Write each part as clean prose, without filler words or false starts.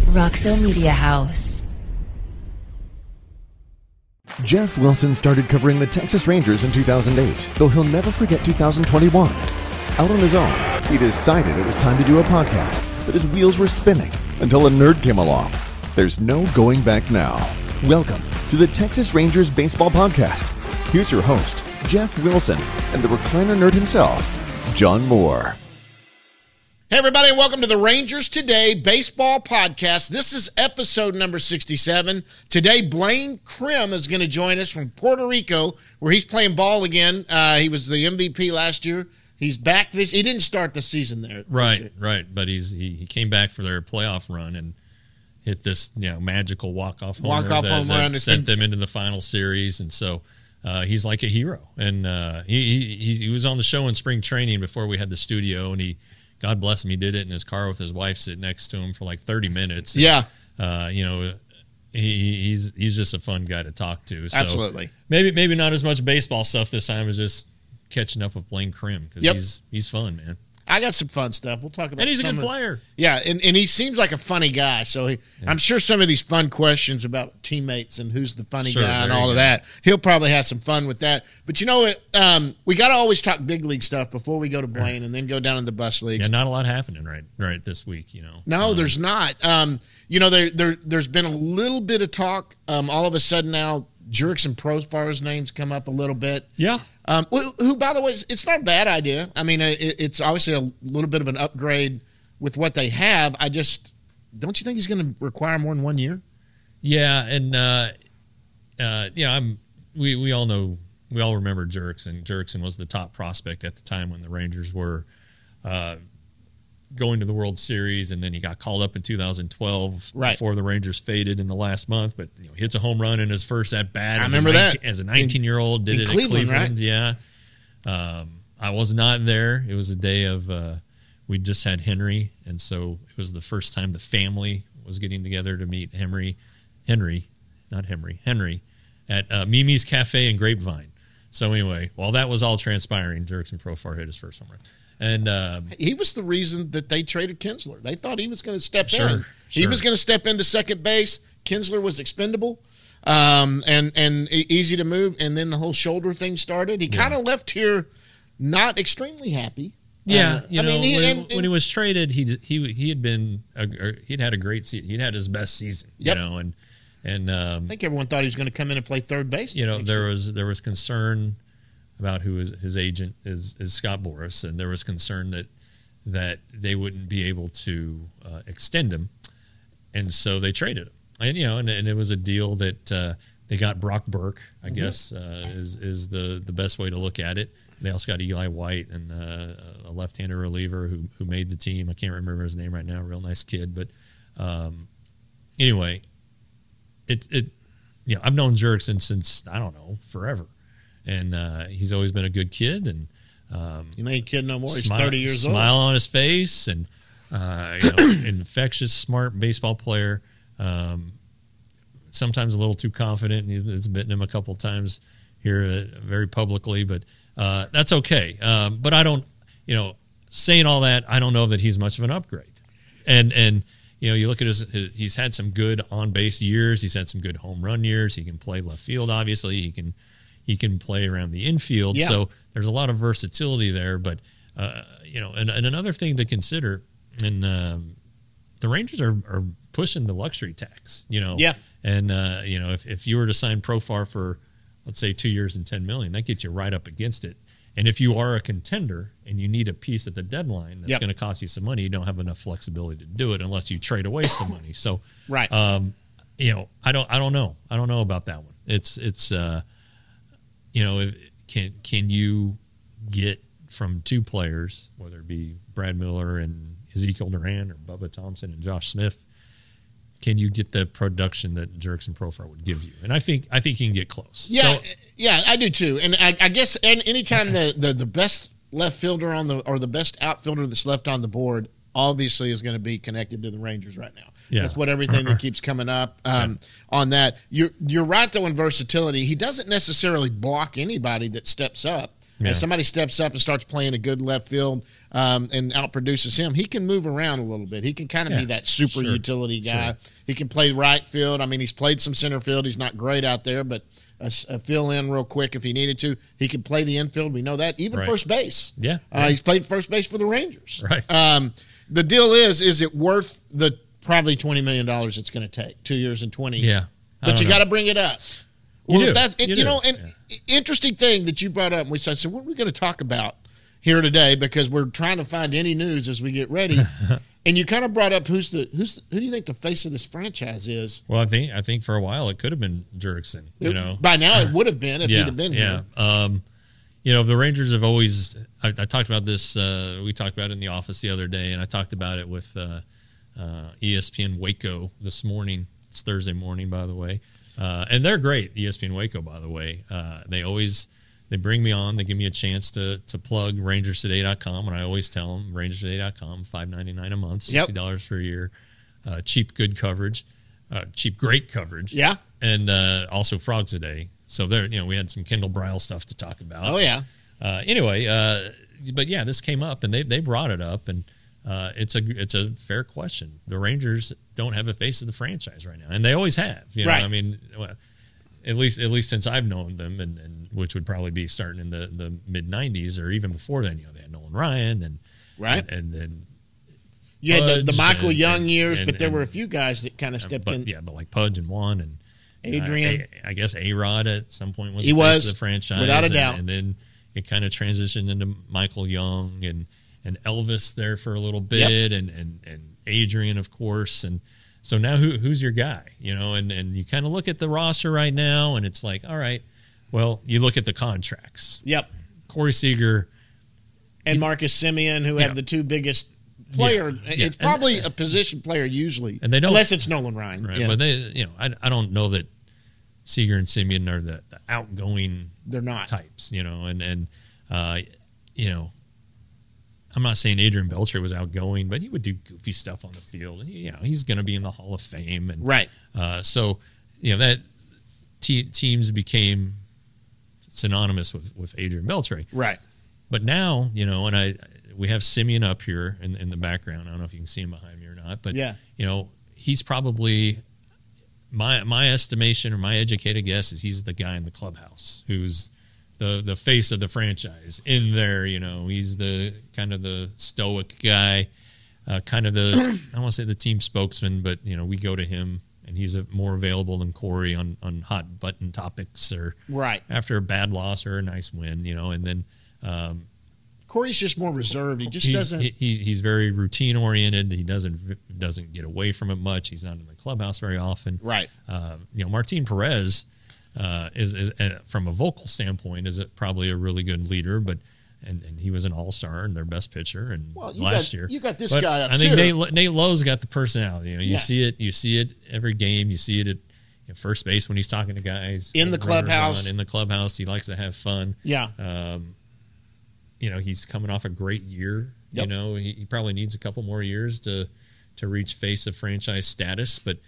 Roxo Media House. Jeff Wilson started covering the Texas Rangers in 2008, though he'll never forget 2021. Out on his own, he decided it was time to do a podcast, but his wheels were spinning until a nerd came along. There's no going back now. Welcome to the Texas Rangers Baseball Podcast. Here's your host, Jeff Wilson, and the recliner nerd himself, John Moore. Hey, everybody, and welcome to the Rangers Today Baseball Podcast. This is episode number 67. Today, Blaine Crim is going to join us from Puerto Rico, where he's playing ball again. He was the MVP last year. He's back this. He didn't start the season there. Right. But he came back for their playoff run and hit this magical walk-off homer that sent them into the final series. And so he's like a hero. And he was on the show in spring training before we had the studio, and God bless him, he did it in his car with his wife sitting next to him for like 30 minutes. Yeah. He's just a fun guy to talk to. So absolutely. Maybe not as much baseball stuff this time as just catching up with Blaine Crim, because he's fun, man. I got some fun stuff. We'll talk about. And he's a good player. Yeah, and he seems like a funny guy. So I'm sure some of these fun questions about teammates and who's the funny guy and all of that, he'll probably have some fun with that. But you know what? We got to always talk big league stuff before we go to Blaine and then go down in the bus leagues. Yeah, not a lot happening right this week, No, there's not. There's been a little bit of talk. All of a sudden now, Jurickson Profar's name's come up a little bit. Yeah. Who, by the way, it's not a bad idea. I mean, it's obviously a little bit of an upgrade with what they have. Don't you think he's going to require more than 1 year? Yeah, and we all know, we all remember Jurickson. Jurickson was the top prospect at the time when the Rangers were going to the World Series, and then he got called up in 2012 before the Rangers faded in the last month. But hits a home run in his first at bat. I remember that as a 19-year-old. Did it in Cleveland, right? Yeah. I was not there. It was a day of we just had Henry, and so it was the first time the family was getting together to meet Henry at Mimi's Cafe and Grapevine. So anyway, while that was all transpiring, Jurickson Profar hit his first home run. And he was the reason that they traded Kinsler. They thought he was going to step in. He was going to step into second base. Kinsler was expendable and easy to move. And then the whole sholdder thing started. He kind of left here not extremely happy. Yeah, when he was traded, he'd had a great season. He'd had his best season. And I think everyone thought he was going to come in and play third base. There was concern about who his agent is Scott Boras, and there was concern that they wouldn't be able to extend him, and so they traded him. And it was a deal that they got Brock Burke, I guess, is the best way to look at it. They also got Eli White and a left-handed reliever who made the team. I can't remember his name right now. Real nice kid, but anyway, I've known Jurickson since forever. And he's always been a good kid, and he ain't kid no more. He's 30 years old. Smile on his face, and infectious, smart baseball player. Sometimes a little too confident, and it's bitten him a couple times here, very publicly. But that's okay. But I don't, saying all that, I don't know that he's much of an upgrade. And you look at he's had some good on base years. He's had some good home run years. He can play left field. Obviously, he can play around the infield, so there's a lot of versatility there. But and another thing to consider, and the Rangers are pushing the luxury tax. And if you were to sign Profar for, let's say, 2 years and $10 million, that gets you right up against it. And if you are a contender and you need a piece at the deadline that's going to cost you some money, you don't have enough flexibility to do it unless you trade away some money. So I don't know. I don't know about that one. It's. Can you get from two players, whether it be Brad Miller and Ezekiel Duran or Bubba Thompson and Josh Smith, can you get the production that Jurickson Profar would give you? And I think he can get close. Yeah, I do too. And I guess anytime the best left fielder or the best outfielder that's left on the board obviously is going to be connected to the Rangers right now. Yeah. That's what everything that keeps coming up on that. You're right, though, in versatility. He doesn't necessarily block anybody that steps up. If somebody steps up and starts playing a good left field and outproduces him, he can move around a little bit. He can kind of be that super utility guy. Sure. He can play right field. I mean, he's played some center field. He's not great out there, but a fill in real quick if he needed to. He can play the infield. We know that. Even first base. Yeah. He's played first base for the Rangers. Right. The deal is it worth the probably $20 million it's going to take, 2 years and 20? Yeah. But you got to bring it up. Well, interesting thing that you brought up. We said, so what are we going to talk about here today? Because we're trying to find any news as we get ready. And you kind of brought up who do you think the face of this franchise is? Well, I think for a while it could have been Jurickson. By now it would have been if he'd have been here. The Rangers have always. I talked about this. We talked about it in the office the other day, and I talked about it with ESPN Waco this morning. It's Thursday morning, by the way. And they're great, ESPN Waco, by the way. They bring me on. They give me a chance to plug rangerstoday.com, and I always tell them rangerstoday.com, $5.99 a month, $60 for a year, cheap, good coverage, cheap, great coverage. Yeah. And also Frogs a Day. So we had some Kendall Brile stuff to talk about. Oh, yeah. But yeah, this came up, and they brought it up, and it's a fair question. The Rangers don't have a face of the franchise right now, and they always have. Right. I mean, at least since I've known them, and which would probably be starting in the mid '90s or even before then. They had Nolan Ryan and then you had the Michael Young years, but there were a few guys that kind of stepped in. Yeah, but like Pudge and Juan and Adrian. I guess A-Rod at some point was the face of the franchise, without a doubt. And then it kind of transitioned into Michael Young and Elvis there for a little bit, and Adrian, of course, and so now who's your guy? And you kind of look at the roster right now, and it's like, all right, well, you look at the contracts. Yep. Corey Seager and Marcus Semien, who have the two biggest player. Yeah. It's probably a position player usually, and they don't, unless it's Nolan Ryan. Right. But I don't know that Seager and Semien are the outgoing. They're not types, I'm not saying Adrian Beltre was outgoing, but he would do goofy stuff on the field. And, he's going to be in the Hall of Fame. And, right. So, that teams became synonymous with Adrian Beltre. Right. But now, and we have Semien up here in the background. I don't know if you can see him behind me or not. But, he's probably, my estimation or my educated guess is he's the guy in the clubhouse who's the face of the franchise in there. He's the kind of the stoic guy, kind of the I don't want to say the team spokesman, but we go to him and he's more available than Corey on hot button topics or after a bad loss or a nice win, and then Corey's just more reserved. He just doesn't. He's very routine oriented. He doesn't get away from it much. He's not in the clubhouse very often. Right. Martin Perez. Is from a vocal standpoint is probably a really good leader, but and he was an all-star and their best pitcher and last year. You got this guy up I think Nate Lowe's got the personality. You see it every game. You see it at first base when he's talking to guys in the clubhouse. In the clubhouse, he likes to have fun. Yeah. He's coming off a great year. Yep. He probably needs a couple more years to reach face of franchise status, but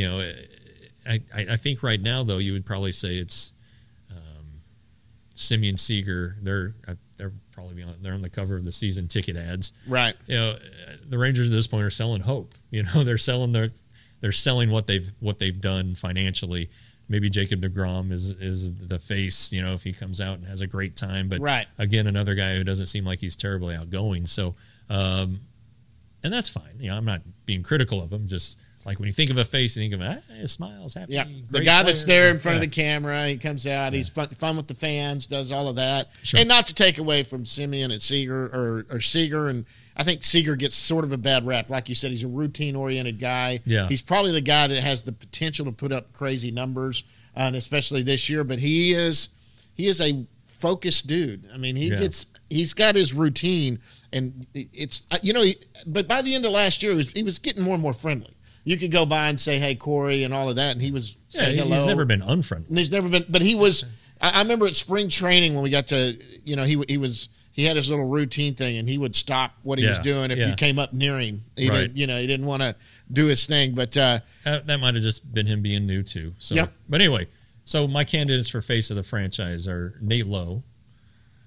I think right now, though, you would probably say it's Semien, Seager. They're probably they're on the cover of the season ticket ads. Right. The Rangers at this point are selling hope. They're selling what they've done financially. Maybe Jacob deGrom is the face. If he comes out and has a great time. But again, another guy who doesn't seem like he's terribly outgoing. So, and that's fine. I'm not being critical of him. Just like when you think of a face, you think of he smiles, happy. Yeah, the guy that's there in front of the camera, he comes out, he's fun with the fans, does all of that. Sure. And not to take away from Semien and Seager or Seager, and I think Seager gets sort of a bad rap. Like you said, he's a routine-oriented guy. Yeah. He's probably the guy that has the potential to put up crazy numbers, and especially this year. But he is a focused dude. I mean, he's got his routine, and it's but by the end of last year, he was getting more and more friendly. You could go by and say, "Hey, Corey," and all of that, and he was saying hello. He's never been unfriendly. And he's never been, but he was. I remember at spring training when we got to, he had his little routine thing, and he would stop what he was doing if you came up near him. He didn't want to do his thing, but that might have just been him being new too. So, but anyway, so my candidates for face of the franchise are Nate Lowe,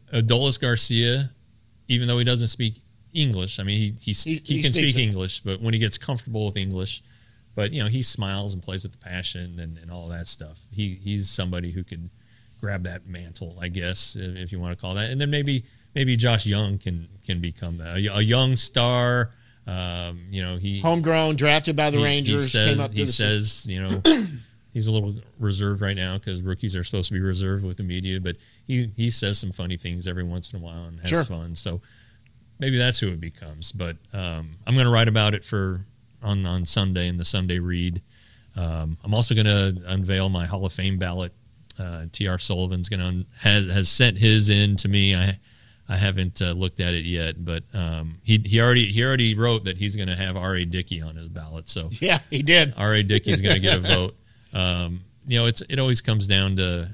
Adolis Garcia, even though he doesn't speak English, I mean, he can speak English, but when he gets comfortable with English, but he smiles and plays with the passion and all that stuff. He's somebody who could grab that mantle, I guess, if you want to call that. And then maybe Josh Young can become that. A young star. He homegrown, drafted by the Rangers. He says, he's a little reserved right now because rookies are supposed to be reserved with the media, but he says some funny things every once in a while and has fun. So maybe that's who it becomes. But I'm going to write about it on Sunday in the Sunday Read. I'm also going to unveil my Hall of Fame ballot. T.R. Sullivan's has sent his in to me. I haven't looked at it yet, but he already wrote that he's going to have R.A. Dickey on his ballot. So yeah, he did. R.A. Dickey's going to get a vote. It always comes down to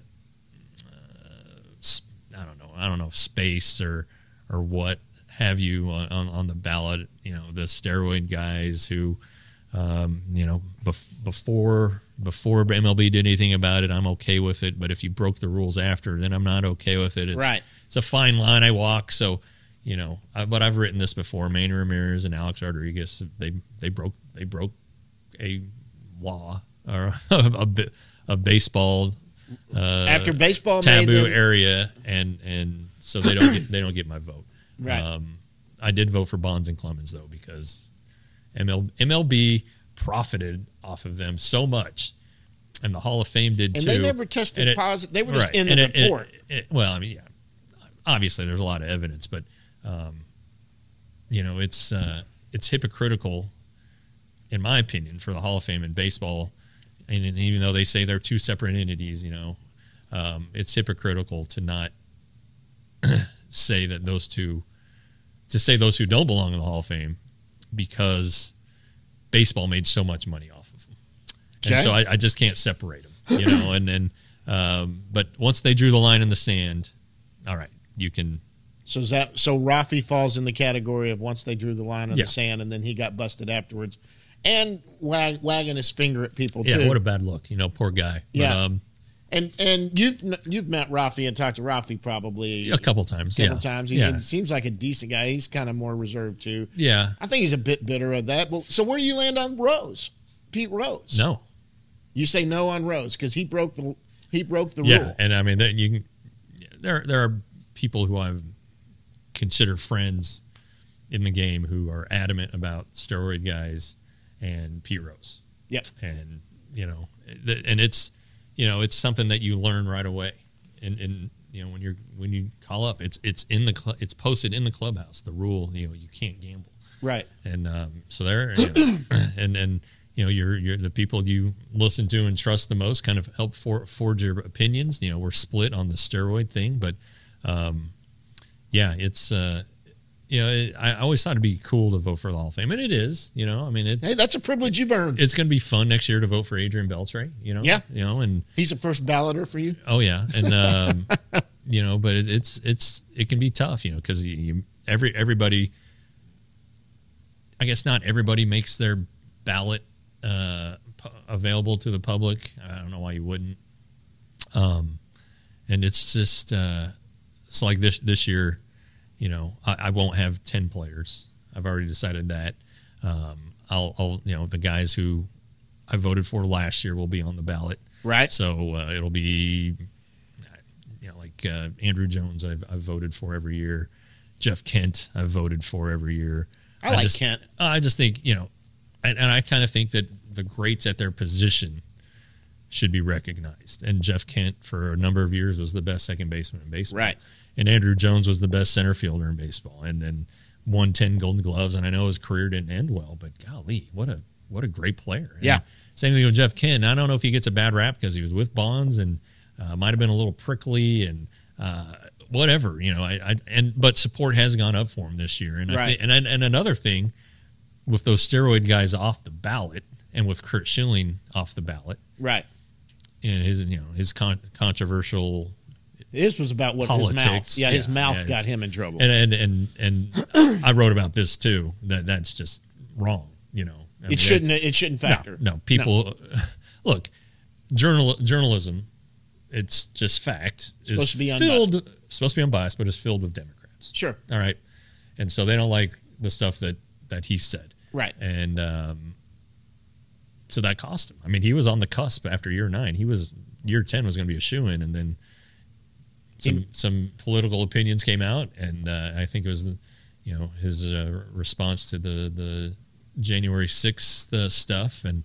I don't know space or what have you on the ballot. The steroid guys who before MLB did anything about it, I'm okay with it. But if you broke the rules after, then I'm not okay with it. It's a fine line I walk. So, but I've written this before. Manny Ramirez and Alex Rodriguez, they broke a law or a baseball after baseball taboo area, and so they don't get my vote. Right. I did vote for Bonds and Clemens though because MLB profited off of them so much, and the Hall of Fame did too. And they never tested positive. They were just in the report. Obviously there's a lot of evidence, but it's hypocritical, in my opinion, for the Hall of Fame in baseball. And even though they say they're two separate entities, it's hypocritical to not say that those two don't belong in the Hall of Fame because baseball made so much money off of them. Okay. And so I just can't separate them, but once they drew the line in the sand, all right, you can. So Rafi falls in the category of once they drew the line in the sand, and then he got busted afterwards, and wagging his finger at people too. Yeah, what a bad look, poor guy. Yeah. But, and you've met Rafi and talked to Rafi probably a couple times. He seems like a decent guy. He's kind of more reserved too. Yeah, I think he's a bit bitter of that. But so where do you land on Rose, Pete Rose? No, you say no on Rose because he broke the rule. Yeah, and I mean there are people who I've considered friends in the game who are adamant about steroid guys and Pete Rose. Yep, and and it's. It's something that you learn right away, and when you call up, it's it's posted in the clubhouse. The rule, you can't gamble, right? And so there, and you're the people you listen to and trust the most kind of help forge your opinions. We're split on the steroid thing, but it's. I always thought it'd be cool to vote for the Hall of Fame, and it is. Hey, that's a privilege you've earned. It's going to be fun next year to vote for Adrian Beltre. Yeah. And he's a first balloter for you. Oh yeah, and but it can be tough, because everybody. I guess not everybody makes their ballot available to the public. I don't know why you wouldn't. And it's just it's like this year. I won't have 10 players. I've already decided that. I'll the guys who I voted for last year will be on the ballot. Right. So it'll be, Andrew Jones I've voted for every year. Jeff Kent I've voted for every year. I like Kent. I just think, and I kind of think that the greats at their position should be recognized. And Jeff Kent for a number of years was the best second baseman in baseball. Right. And Andrew Jones was the best center fielder in baseball and won 10 Golden Gloves. And I know his career didn't end well, but golly, what a great player. And yeah. Same thing with Jeff Kent. I don't know if he gets a bad rap because he was with Bonds and might have been a little prickly and whatever, but support has gone up for him this year. And right. And another thing with those steroid guys off the ballot and with Curt Schilling off the ballot. Right. And his controversial This was about what politics. His mouth. Yeah, his mouth got him in trouble. And I wrote about this too. That's just wrong. It shouldn't factor. No, people look. Journalism it's just fact. Supposed to be supposed to be unbiased, but it's filled with Democrats. Sure. All right. And so they don't like the stuff that he said. Right. And so that cost him. I mean, he was on the cusp after year 9. Year 10 was going to be a shoo-in, and then some political opinions came out, and I think it was his response to the January 6th stuff, and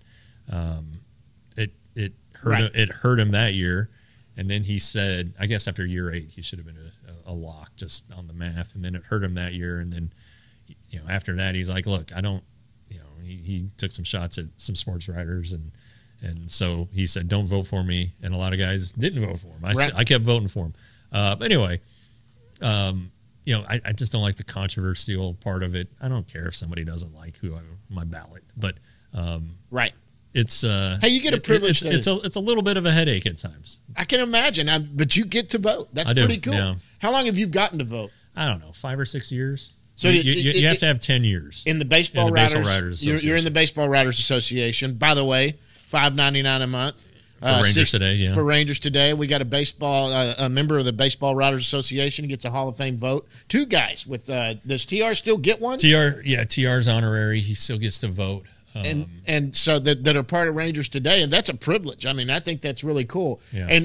it hurt him that year. And then he said, I guess after year 8, he should have been a lock just on the math, and then it hurt him that year. And then after that, he's like, look, I don't, he took some shots at some sports writers, and so he said, don't vote for me. And a lot of guys didn't vote for him. I kept voting for him. But anyway, I just don't like the controversial part of it. I don't care if somebody doesn't like my ballot, but right. It's hey, you get a privilege. It's a little bit of a headache at times. I can imagine, but you get to vote. That's pretty cool. Yeah. How long have you gotten to vote? I don't know, 5 or 6 years. So you have to have 10 years in the Baseball Writers. You're in the Baseball Writers Association. By the way, $5.99 a month for Rangers Today. Yeah, for Rangers Today, we got a member of the Baseball Writers Association gets a Hall of Fame vote. 2 guys with. Does TR still get one? TR's honorary. He still gets to vote. And so that are part of Rangers Today, and that's a privilege. I mean, I think that's really cool. Yeah. And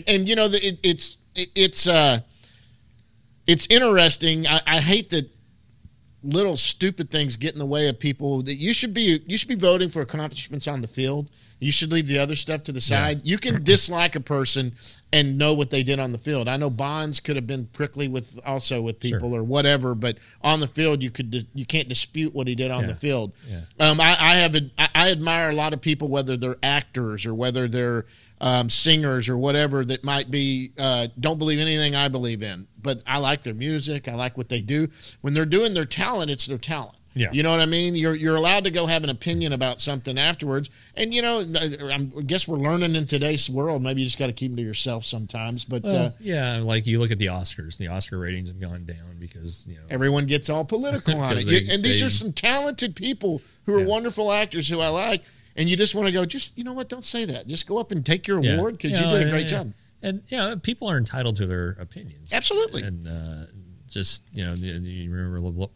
it's interesting. I hate that little stupid things get in the way of people. That you should be voting for accomplishments on the field. You should leave the other stuff to the side. Yeah. You can dislike a person and know what they did on the field. I know Bonds could have been prickly with people or whatever, but on the field you can't dispute what he did on the field. Yeah. I admire a lot of people, whether they're actors or whether they're singers or whatever, that might be don't believe anything I believe in, but I like their music. I like what they do. When they're doing their talent, it's their talent. Yeah. You know what I mean? You're allowed to go have an opinion about something afterwards. And, I guess we're learning in today's world. Maybe you just got to keep them to yourself sometimes. But like you look at the Oscars. The Oscar ratings have gone down because, everyone gets all political on it. These are some talented people who are wonderful actors who I like. And you just want to go, you know what? Don't say that. Just go up and take your award because you did a great job. And, people are entitled to their opinions. Absolutely. And you remember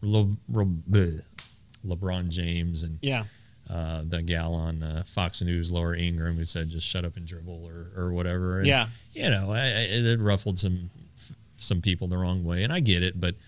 LeBron James and the gal on Fox News, Laura Ingraham, who said just shut up and dribble or whatever. And, it ruffled some people the wrong way, and I get it. But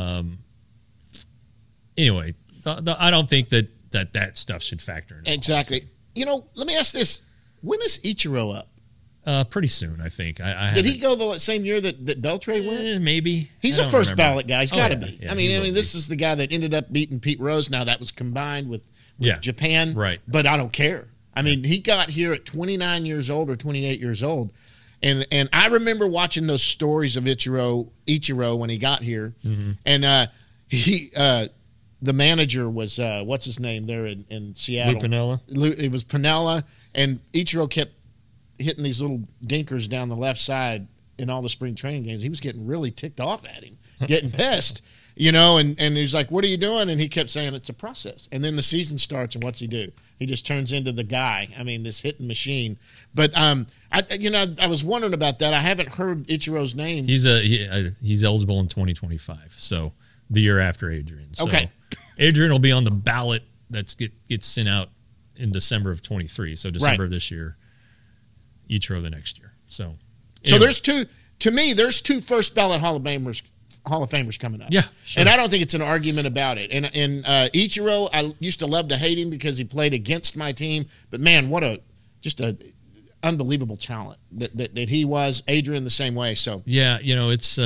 anyway, I don't think that stuff should factor in. Exactly. Let me ask this. When is Ichiro up? Pretty soon, I think. Did he go the same year that Beltre went? Maybe. He's a first ballot guy. He's got to be. Yeah, I mean, this is the guy that ended up beating Pete Rose. Now that was combined with Japan, right? But I don't care. I mean, he got here at 29 years old or 28 years old, and I remember watching those stories of Ichiro when he got here, and the manager was what's his name there in Seattle? Lou Piniella. It was Piniella, and Ichiro kept hitting these little dinkers down the left side in all the spring training games. He was getting really ticked off at him, getting pissed, and he was like, what are you doing? And he kept saying it's a process. And then the season starts, and what's he do? He just turns into the guy. I mean, this hitting machine. But I was wondering about that. I haven't heard Ichiro's name. He's eligible in 2025, so the year after Adrian. So okay. Adrian will be on the ballot that gets sent out in December of 23, so December of this year. Ichiro the next year. So there's two first ballot Hall of Famers coming up. Yeah, sure. And I don't think it's an argument about it. And Ichiro, I used to love to hate him because he played against my team, but man, what a unbelievable talent that he was. Adrian the same way. So yeah, it's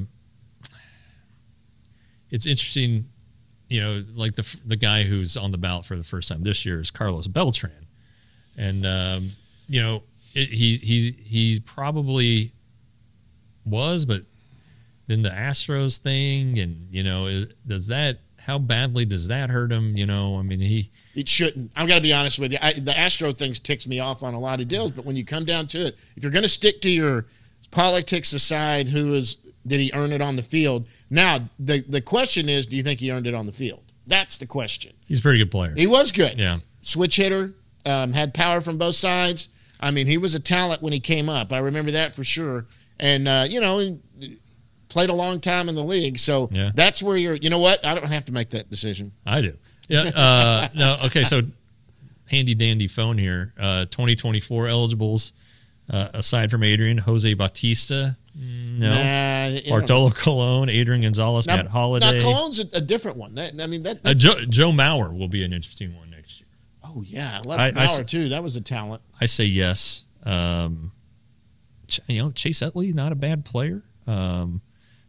interesting. Like the guy who's on the ballot for the first time this year is Carlos Beltran, and he probably was, but then the Astros thing, and how badly does that hurt him? I mean, it shouldn't. I've got to be honest with you. The Astro thing ticks me off on a lot of deals, but when you come down to it, if you're going to stick to your politics aside, did he earn it on the field? Now the question is, do you think he earned it on the field? That's the question. He's a pretty good player. He was good. Yeah, switch hitter, had power from both sides. I mean, he was a talent when he came up. I remember that for sure. And, he played a long time in the league. So that's where you know what? I don't have to make that decision. I do. Yeah. No. Okay. So handy dandy phone here. 2024 eligibles, aside from Adrian, Jose Bautista. No. Bartolo Colon, Adrian Gonzalez, Matt Holliday. Now, Colon's a different one. Joe Mauer will be an interesting one next year. Oh, yeah. I love Mauer, too. That was a talent. I say yes. Chase Utley, not a bad player. In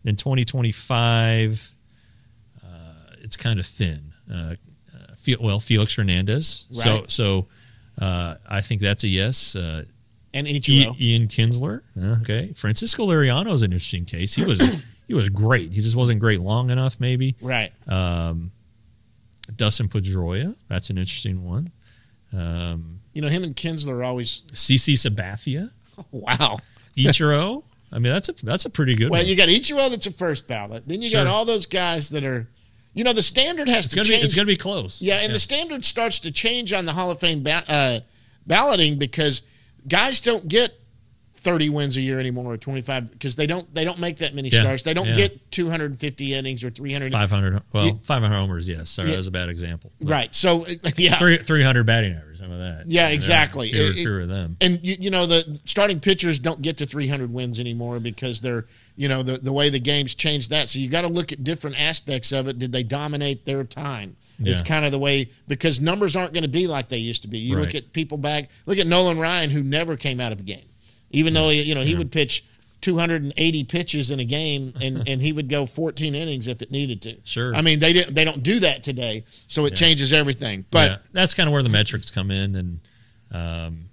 2025, it's kind of thin. Felix Hernandez. Right. So I think that's a yes. And Ichiro. Ian Kinsler. Okay. Francisco Liriano is an interesting case. He was great. He just wasn't great long enough, maybe. Right. Dustin Pedroia. That's an interesting one. Him and Kinsler are always CC Sabathia. Oh, wow. Ichiro. I mean, that's a pretty good one. Well, you got Ichiro that's a first ballot. Then you got all those guys that are, the standard has to change. It's going to be close. Yeah, and the standard starts to change on the Hall of Fame balloting because guys don't get 30 wins a year anymore or 25 because they don't make that many starts. They don't get 250 innings or 300. 500. Well, 500 homers, yes. Sorry, that was a bad example. But right. So, 300 batting average, some of that. Yeah, exactly. Fewer of them. And, the starting pitchers don't get to 300 wins anymore because they're, the way the game's changed that. So you got to look at different aspects of it. Did they dominate their time? It's kind of the way, because numbers aren't going to be like they used to be. You look at people look at Nolan Ryan, who never came out of a game. Even though, he would pitch 280 pitches in a game and he would go 14 innings if it needed to. Sure. I mean, they don't do that today, so it changes everything. But that's kind of where the metrics come in and,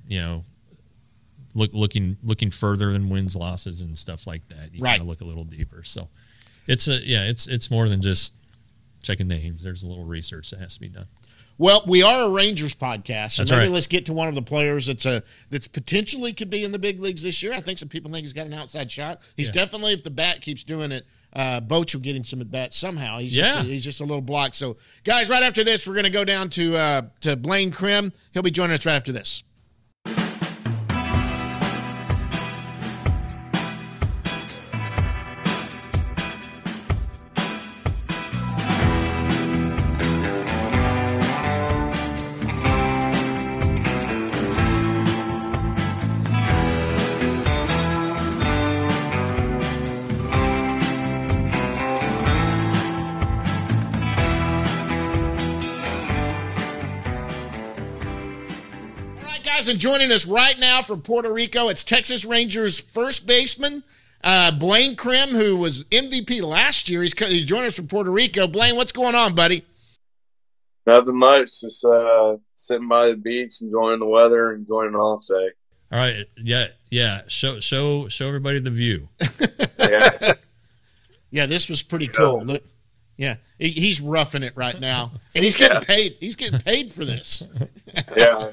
looking further than wins, losses, and stuff like that. You kind of look a little deeper. So it's more than just checking names. There's a little research that has to be done. Well, we are a Rangers podcast, so that's maybe right. Let's get to one of the players that's potentially could be in the big leagues this year. I think some people think he's got an outside shot. He's definitely, if the bat keeps doing it, Boch will get him some at bats somehow. He's just a little blocked. So, guys, right after this, we're going to go down to Blaine Crim. He'll be joining us right after this. And joining us right now from Puerto Rico, it's Texas Rangers first baseman Blaine Crim, who was MVP last year. He's joining us from Puerto Rico. Blaine, what's going on, buddy? Nothing much. Just sitting by the beach, enjoying the weather, enjoying an off day. All right, yeah. Show everybody the view. Yeah, this was pretty cool. Look, yeah, he's roughing it right now, and he's getting paid. He's getting paid for this. Yeah.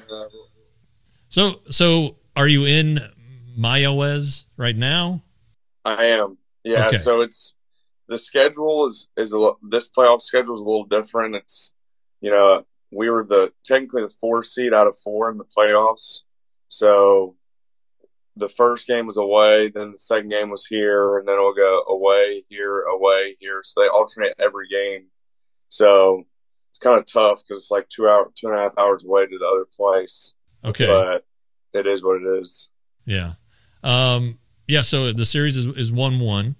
So are you in Mayahuez right now? I am. Yeah. Okay. So it's the schedule is this playoff schedule is a little different. It's we were technically the 4th seed out of 4 in the playoffs. So the first game was away, then the second game was here, and then it'll go away here. So they alternate every game. So it's kind of tough because it's like 2.5 hours away to the other place. Okay. But it is what it is. Yeah. So the series is 1-1.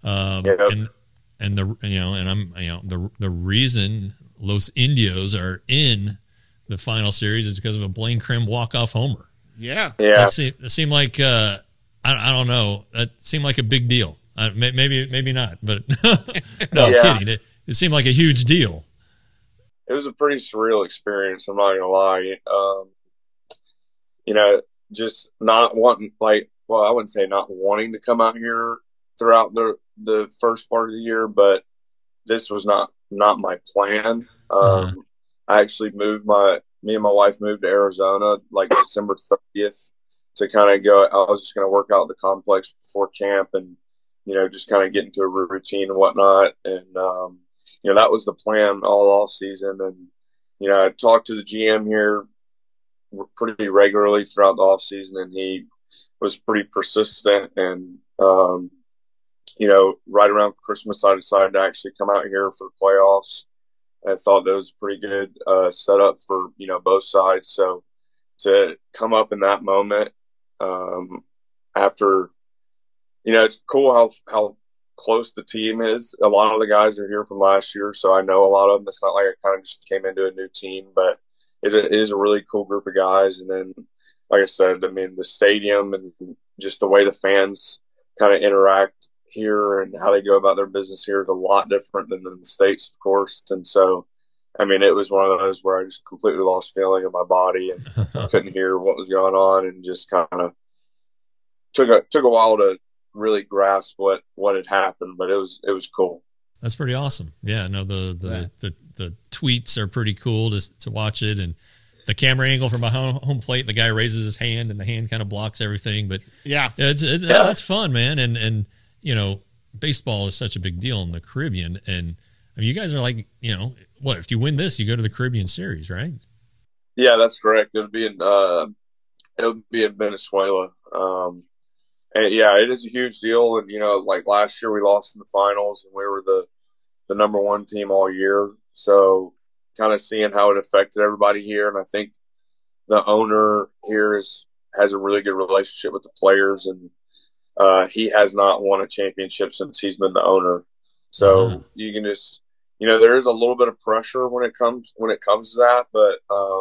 The reason Los Indios are in the final series is because of a Blaine Crim walk-off homer. Yeah. That seemed like I don't know. That seemed like a big deal. Maybe not, but no, I'm kidding. It seemed like a huge deal. It was a pretty surreal experience. I'm not gonna lie. Just not wanting, I wouldn't say not wanting to come out here throughout the first part of the year, but this was not my plan. I actually me and my wife moved to Arizona like December 30th to kind of go. I was just going to work out the complex before camp and, just kind of get into a routine and whatnot. And, that was the plan all off season. And, I talked to the GM here pretty regularly throughout the off season, and he was pretty persistent. And right around Christmas, I decided to actually come out here for the playoffs. I thought that was pretty good setup for both sides. So to come up in that moment after, it's cool how close the team is. A lot of the guys are here from last year, so I know a lot of them. It's not like I kind of just came into a new team, but it is a really cool group of guys. And then, like I said, the stadium and just the way the fans kind of interact here and how they go about their business here is a lot different than in the States, of course. And so, it was one of those where I just completely lost feeling in my body and couldn't hear what was going on, and just kind of took a while to really grasp what had happened, but it was cool. That's pretty awesome. Yeah, no, the tweets are pretty cool to watch it, and the camera angle from behind home plate, the guy raises his hand and the hand kind of blocks everything. But that's fun, man. And baseball is such a big deal in the Caribbean, and you guys are like, what if you win this, you go to the Caribbean Series, right? Yeah, that's correct. It would be in Venezuela. And yeah, it is a huge deal. And, like last year we lost in the finals and we were the number one team all year. So kind of seeing how it affected everybody here. And I think the owner here has a really good relationship with the players, and he has not won a championship since he's been the owner. So you can just, there is a little bit of pressure when it comes to that, but,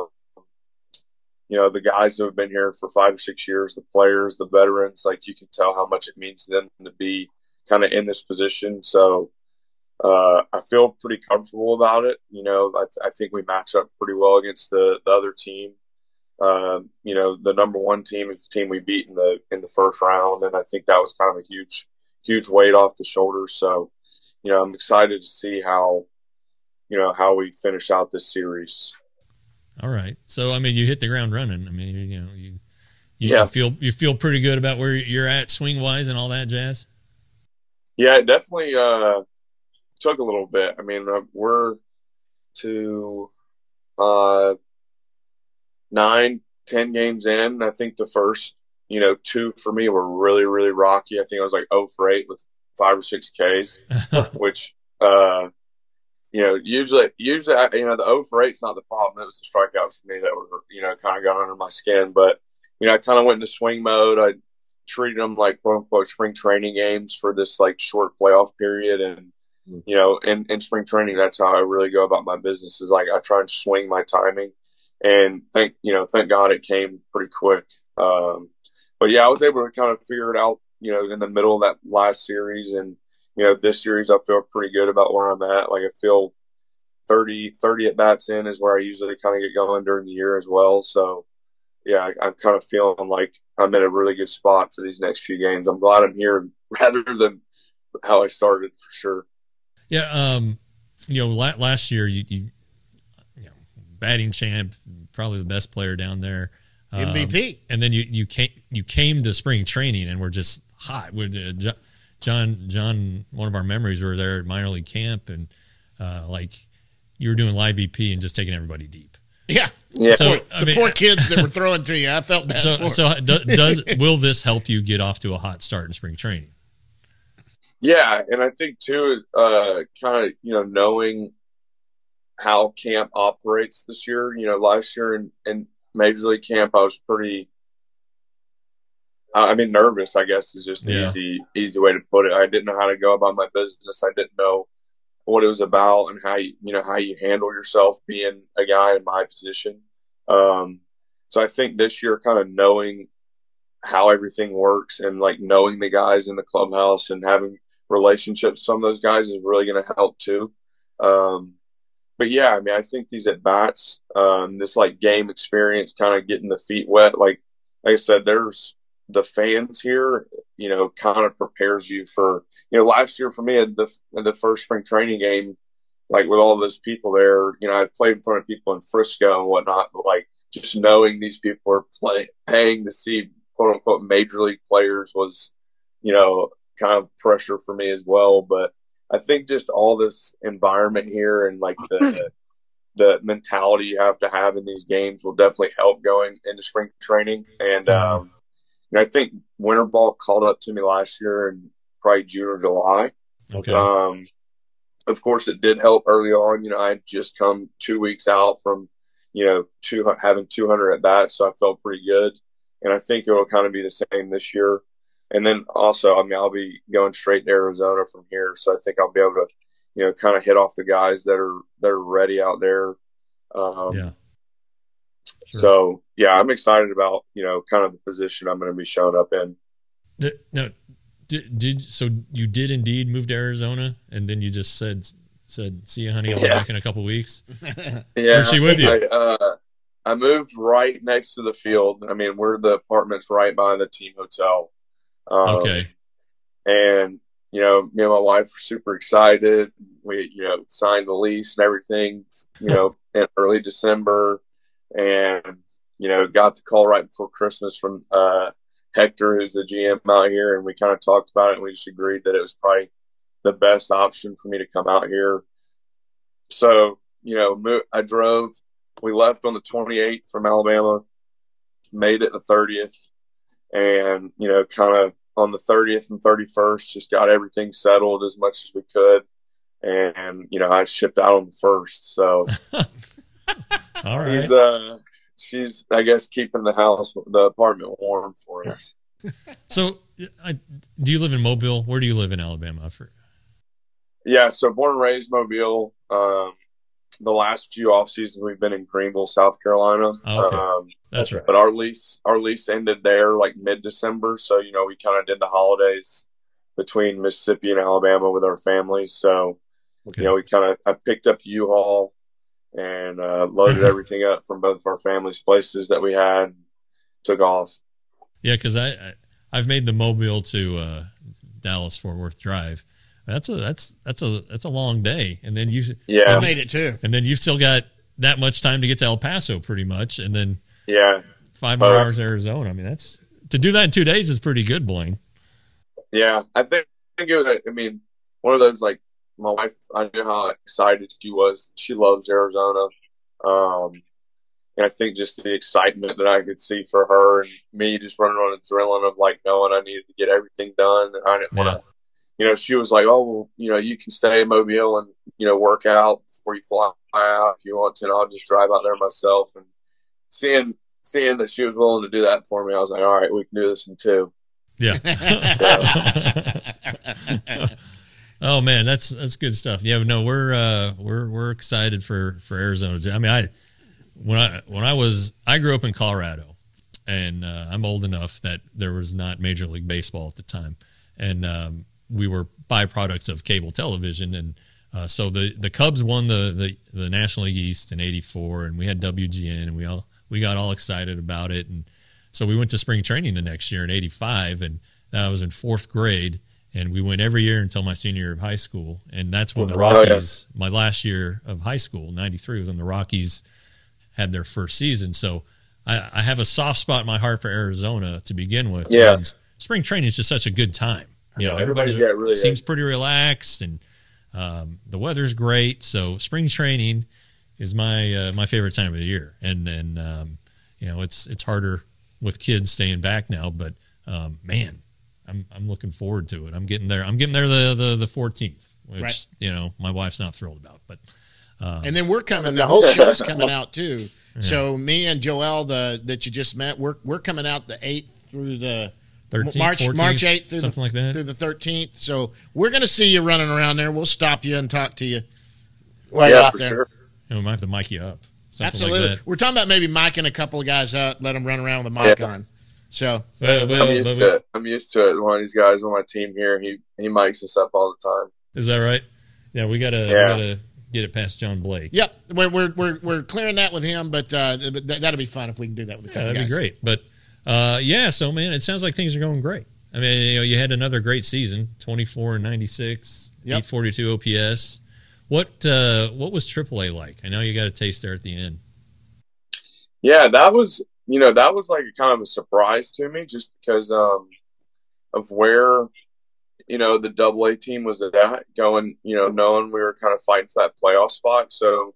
the guys who have been here for 5 or 6 years, the players, the veterans, like you can tell how much it means to them to be kind of in this position. So I feel pretty comfortable about it. I think we match up pretty well against the other team. The number one team is the team we beat in the first round, and I think that was kind of a huge weight off the shoulders. So, I'm excited to see how we finish out this series. All right. So, you hit the ground running. You feel pretty good about where you're at swing wise and all that jazz. Yeah, it definitely took a little bit. We're to 9-10 games in. I think the first, 2 for me were really, really rocky. I think I was like 0 for 8 with 5 or 6 Ks, which, usually, the 0 for 8 is not the problem. It was the strikeouts for me that were, kind of got under my skin. But, I kind of went into swing mode. I treated them like quote unquote spring training games for this like short playoff period. And, in spring training, that's how I really go about my business, is like I try and swing my timing. And thank God it came pretty quick. But yeah, I was able to kind of figure it out, in the middle of that last series. And, this series, I feel pretty good about where I'm at. Like I feel 30 at bats in is where I usually kind of get going during the year as well. So yeah, I'm kind of feeling like I'm in a really good spot for these next few games. I'm glad I'm here rather than how I started, for sure. Yeah. Last year you batting champ, probably the best player down there. MVP. And then you came to spring training and were just hot. John, one of our memories, were there at minor league camp, and you were doing live BP and just taking everybody deep. Yeah. So the poor kids that were throwing to you, I felt bad for. So will this help you get off to a hot start in spring training? Yeah, and I think too, kind of knowing how camp operates this year. Last year in Major League camp, I was pretty. Nervous, I guess, is just an easy way to put it. I didn't know how to go about my business. I didn't know what it was about and how you handle yourself being a guy in my position. So I think this year, kind of knowing how everything works and like knowing the guys in the clubhouse and having relationships with some of those guys is really going to help too. But yeah, I think these at bats, this like game experience, kind of getting the feet wet. Like I said, there's the fans here, kind of prepares you for, last year for me at the first spring training game, like with all those people there, I played in front of people in Frisco and whatnot, but like just knowing these people are paying to see quote unquote major league players was, kind of pressure for me as well. But I think just all this environment here and like the mentality you have to have in these games will definitely help going into spring training. And I think winter ball called up to me last year in probably June or July. Okay. Of course, it did help early on. I had just come 2 weeks out from, having 200 at bats, so I felt pretty good. And I think it will kind of be the same this year. And then also, I'll be going straight to Arizona from here, so I think I'll be able to, kind of hit off the guys that are ready out there. Yeah. Sure. So yeah, I'm excited about kind of the position I'm going to be showing up in. No, so you did indeed move to Arizona, and then you just said, "See you, honey. I'll be back in a couple weeks." Yeah, where's she with you? I moved right next to the field. The apartment's right by the team hotel. Okay. And me and my wife were super excited. We signed the lease and everything. In early December, and got the call right before Christmas from Hector, who's the GM out here, and we kind of talked about it, and we just agreed that it was probably the best option for me to come out here. So, I drove. We left on the 28th from Alabama, made it the 30th, and, kind of on the 30th and 31st, just got everything settled as much as we could. And, I shipped out on the 1st. So all right. She's, I guess, keeping the apartment warm for us. So, do you live in Mobile? Where do you live in Alabama? Yeah, so born and raised Mobile. The last few off seasons we've been in Greenville, South Carolina. Oh, okay. That's right. But our lease ended there like mid-December, so we kind of did the holidays between Mississippi and Alabama with our families. So okay. I picked up U-Haul and loaded everything up from both of our families' places that we had, took off. Yeah, because I've made the Mobile to Dallas Fort Worth drive. That's a long day, and then I made it too, and then you've still got that much time to get to El Paso, pretty much, and then 5 more hours to Arizona. That's to do that in 2 days is pretty good, Blaine. Yeah, I think it was. One of those, like, my wife, I knew how excited she was. She loves Arizona. And I think just the excitement that I could see for her and me just running on adrenaline of, like, knowing I needed to get everything done. And I didn't want to, she was like, oh, well, you can stay in Mobile and, work out before you fly out if you want to. And I'll just drive out there myself. And seeing that she was willing to do that for me, I was like, all right, we can do this in 2. Yeah. Oh man, that's good stuff. Yeah, no, we're excited for Arizona too. I grew up in Colorado, and I'm old enough that there was not Major League Baseball at the time, and we were byproducts of cable television, and so the Cubs won the National League East in '84, and we had WGN, and we got all excited about it, and so we went to spring training the next year in '85, and I was in 4th grade. And we went every year until my senior year of high school. And that's when the Rockies, my last year of high school, 93, was when the Rockies had their first season. So I have a soft spot in my heart for Arizona to begin with. Yeah. And spring training is just such a good time. Everybody really seems pretty relaxed, and the weather's great. So spring training is my favorite time of the year. And it's harder with kids staying back now, but man, I'm looking forward to it. I'm getting there. The 14th, which my wife's not thrilled about. But and then we're coming. The whole show's coming out too. Yeah. So me and Joel, that you just met, we're coming out the 8th through the 13th, March 8th through something like that, through the 13th. So we're going to see you running around there. We'll stop you and talk to you. Out for there. Sure. We might have to mic you up. Absolutely. Like that. We're talking about maybe micing a couple of guys up, let them run around with a mic on. So I'm used to it. One of these guys on my team here, he mics us up all the time. Is that right? Yeah, we gotta get it past John Blake. Yep, we're clearing that with him, but that'll be fun if we can do that with a couple that'd guys. Be great. But so man, it sounds like things are going great. You had another great season, 24 and 96, 842 OPS. What was AAA like? I know you got a taste there at the end. Yeah, that was like a kind of a surprise to me, just because of where, the AA team was at going, knowing we were kind of fighting for that playoff spot. So,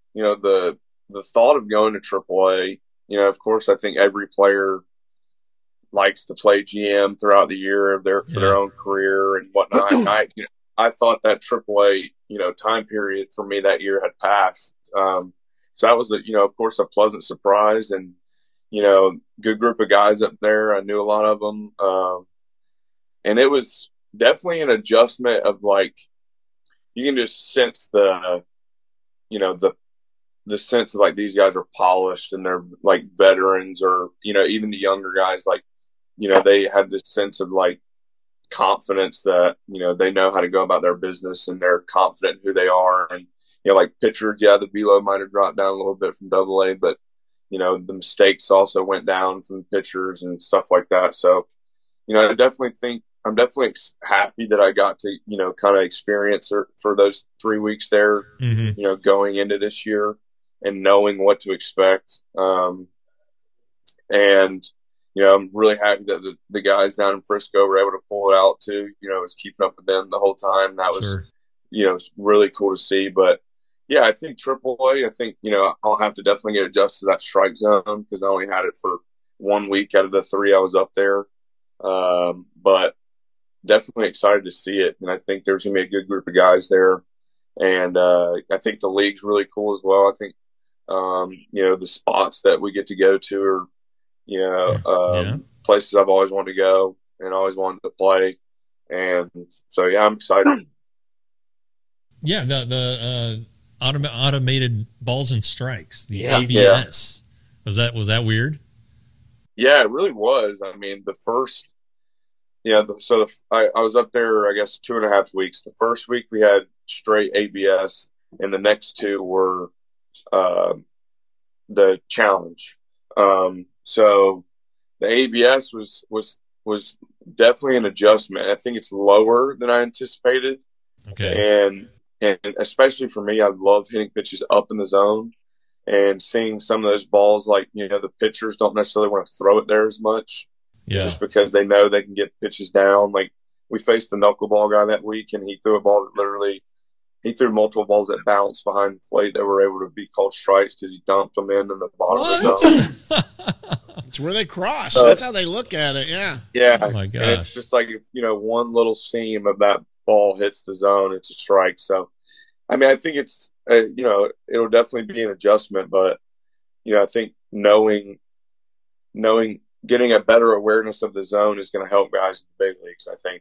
the thought of going to AAA, of course, I think every player likes to play GM throughout the year for their own career and whatnot. And I thought that AAA, time period for me that year had passed. So that was, of course, a pleasant surprise, and, good group of guys up there. I knew a lot of them. And it was definitely an adjustment of, like, you can just sense the sense of, like, these guys are polished and they're, like, veterans, or, even the younger guys, like, they have this sense of, like, confidence that, they know how to go about their business and they're confident in who they are. And, like pitchers, the velo might have dropped down a little bit from AA, but, the mistakes also went down from pitchers and stuff like that. So, I definitely think I'm definitely happy that I got to, kind of experience for those 3 weeks there, going into this year and knowing what to expect. And, I'm really happy that the guys down in Frisco were able to pull it out too. I was keeping up with them the whole time. That was, really cool to see. But yeah, I think AAA, I think, I'll have to definitely get adjusted to that strike zone because I only had it for 1 week out of the 3 I was up there. But definitely excited to see it. And I think there's going to be a good group of guys there. And I think the league's really cool as well. I think, the spots that we get to go to are, places I've always wanted to go and always wanted to play. And so, yeah, I'm excited. Yeah, the automated balls and strikes, the ABS. Yeah. Was that weird? Yeah, it really was. I mean, the first, I was up there, I guess, 2.5 weeks. The first week we had straight ABS, and the next 2 were the challenge. So the ABS was definitely an adjustment. I think it's lower than I anticipated. Okay. And especially for me, I love hitting pitches up in the zone and seeing some of those balls, like, the pitchers don't necessarily want to throw it there as much. Yeah. Just because they know they can get pitches down. Like, we faced the knuckleball guy that week, and he threw a ball that he threw multiple balls that bounced behind the plate that were able to be called strikes because he dumped them in the bottom of the zone. It's where they cross. That's how they look at it. Yeah. Yeah. Oh my God. And it's just like, if, one little seam of that ball hits the zone, it's a strike. So, I mean, I think it's, it'll definitely be an adjustment, but, I think knowing, getting a better awareness of the zone is going to help guys in the big leagues, I think.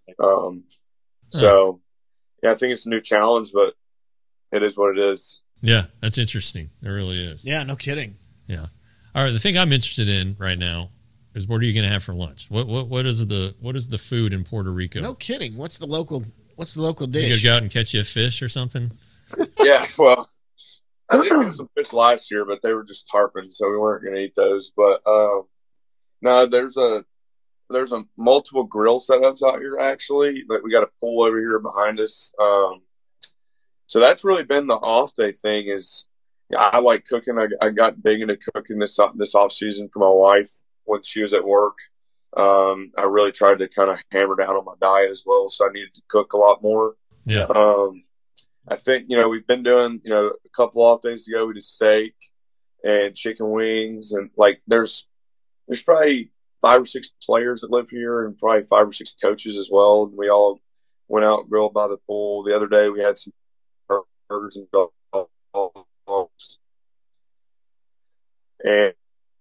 So, yeah, I think it's a new challenge, but it is what it is. Yeah, that's interesting. It really is. Yeah, no kidding. Yeah. All right, the thing I'm interested in right now is, what are you going to have for lunch? What is the food in Puerto Rico? No kidding. What's the local dish? You going to go out and catch you a fish or something? Yeah, well, I did get some fish last year, but they were just tarpon, so we weren't going to eat those. But no, there's a multiple grill setups out here, actually. Like, we got a pool over here behind us. So that's really been the off day thing. Is I like cooking. I got big into cooking this off season for my wife when she was at work. I really tried to kind of hammer down on my diet as well, so I needed to cook a lot more. Yeah. I think, we've been doing, a couple off days ago, we did steak and chicken wings, and, like, there's probably 5 or 6 players that live here and probably 5 or 6 coaches as well. And we all went out and grilled by the pool. The other day we had some burgers and dogs. And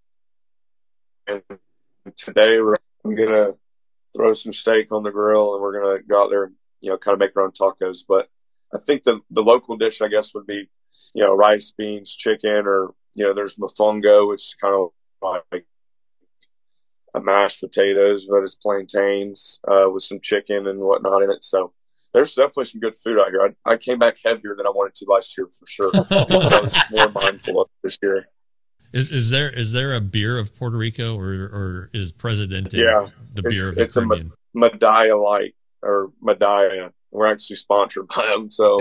today I'm going to throw some steak on the grill, and we're going to go out there and, kind of make our own tacos. But I think the local dish, I guess, would be, rice, beans, chicken, or, there's mofongo, which is kind of like a mashed potatoes, but it's plantains with some chicken and whatnot in it. So there's definitely some good food out here. I came back heavier than I wanted to last year for sure. I was more mindful of this year. Is there a beer of Puerto Rico, or is Presidente the beer of the Caribbean? It's a Medalla Light, or Medalla. We're actually sponsored by them, so.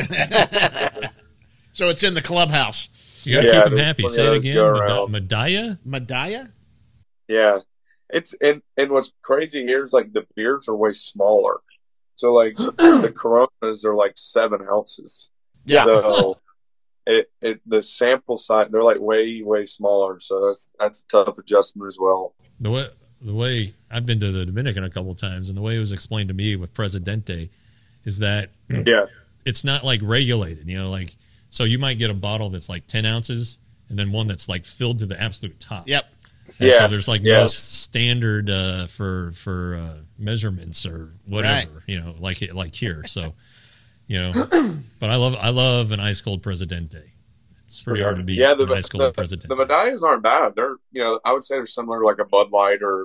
So it's in the clubhouse. You got to keep them happy. Say it again. Medalla? Medalla? Yeah. It's and what's crazy here is, like, the beers are way smaller. So, like, the Coronas are like 7 ounces. Yeah. So the sample size, they're like way, way smaller. So that's a tough adjustment as well. The way I've been to the Dominican a couple of times, and the way it was explained to me with Presidente is that it's not like regulated, like, so you might get a bottle that's like 10 ounces and then one that's like filled to the absolute top. Yep. And so there's like no standard for measurements or whatever, right. like here. So, but I love an ice cold Presidente. It's pretty hard to beat an ice cold Presidente. The medallions aren't bad. They're, I would say they're similar to like a Bud Light or,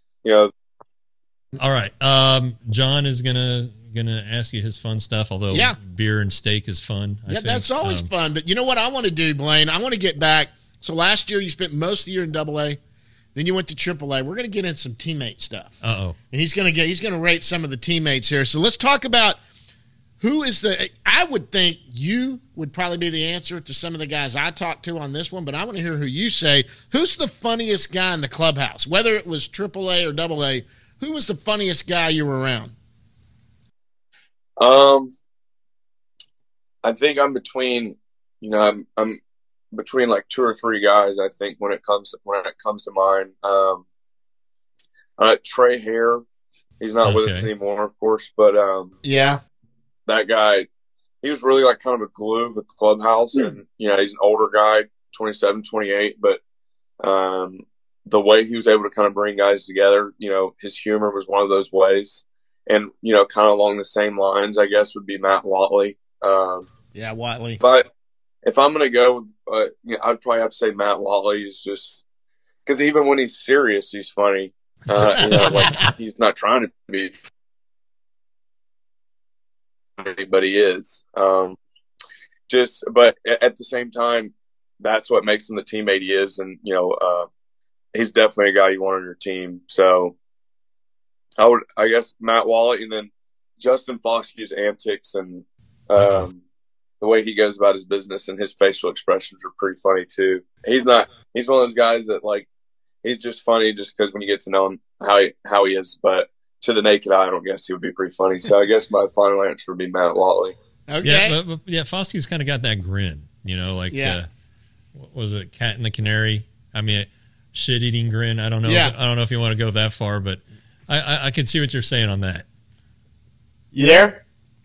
All right. John is gonna ask you his fun stuff, although beer and steak is fun. I think that's always fun. But you know what I want to do, Blaine? I want to get back. So last year you spent most of the year in AA. Then you went to AAA. We're going to get in some teammate stuff. Uh-oh. And he's going to rate some of the teammates here. So let's talk about who is I would think you would probably be the answer to some of the guys I talked to on this one, but I want to hear who you say. Who's the funniest guy in the clubhouse? Whether it was AAA or AA, who was the funniest guy you were around? I think I'm between, I'm between like two or three guys. I think when it comes to mine, Trey Hare, he's not with us anymore, of course, but that guy, he was really like kind of a glue of the clubhouse, and he's an older guy, 27, 28, but the way he was able to kind of bring guys together, his humor was one of those ways, and kind of along the same lines, I guess, would be Matt Watley. Watley. But if I'm going to go, I'd probably have to say Matt Watley is just because even when he's serious, he's funny. Like he's not trying to be funny, but he is. But at the same time, that's what makes him the teammate he is, and he's definitely a guy you want on your team. So I guess Matt Watley, and then Justin Foskey's antics and the way he goes about his business and his facial expressions are pretty funny too. He's one of those guys that like, he's just funny just because when you get to know him, how he is, but to the naked eye, I don't guess he would be pretty funny. So I guess my final answer would be Matt Watley. Okay. Yeah, Foskey's kind of got that grin, what was it, Cat and the Canary? I mean, shit-eating grin. I don't know. I don't know if you want to go that far, but I can see what you're saying on that. You there?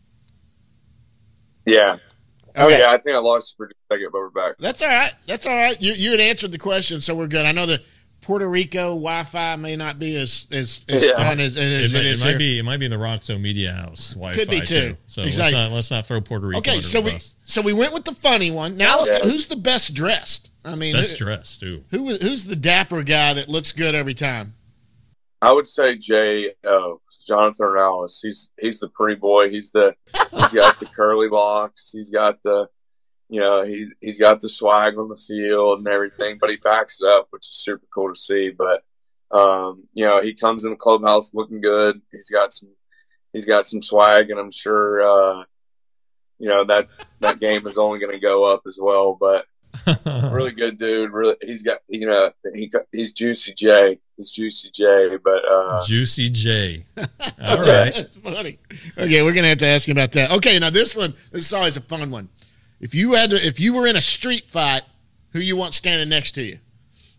Yeah. Okay. Yeah, I think I lost for just a second, but we're back. That's all right. You had answered the question, so we're good. I know the Puerto Rico Wi-Fi may not be as fun as it is here. It might be in the Roxo Media House Wi-Fi Could be too. So exactly. let's not throw Puerto Rico. Okay, so we went with the funny one. Now who's the best dressed? I mean, best dressed too. Who's the dapper guy that looks good every time? I would say Jonathan Ornelas. He's the pretty boy. He's got the curly locks. He's got the, he's got the swag on the field and everything, but he backs it up, which is super cool to see. But, he comes in the clubhouse looking good. He's got some swag, and I'm sure, that game is only going to go up as well, but really good dude. Really, he's got, he's Juicy J. He's Juicy J, but Juicy J. All right, that's funny. Okay, we're gonna have to ask him about that. Okay, now this is always a fun one. If you were in a street fight, who you want standing next to you?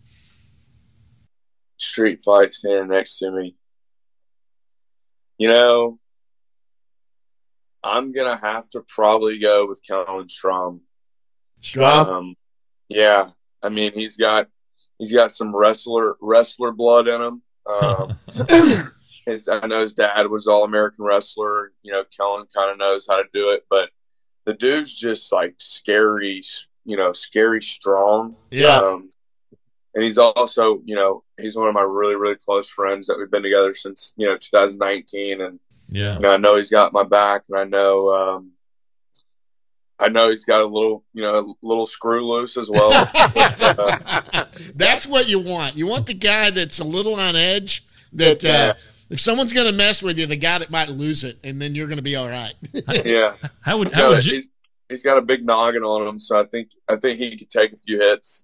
Street fight standing next to me. I'm gonna have to probably go with Kellen Strom. Strom? Yeah. I mean, he's got some wrestler blood in him. I know his dad was All-American wrestler. Kellen kind of knows how to do it, but the dude's just like scary strong. Yeah. And he's also, he's one of my really, really close friends that we've been together since, 2019. And, I know he's got my back, and I know he's got a little screw loose as well. That's what you want. You want the guy that's a little on edge. That if someone's going to mess with you, the guy that might lose it, and then you're going to be all right. Yeah. He's got a big noggin on him, so I think he could take a few hits.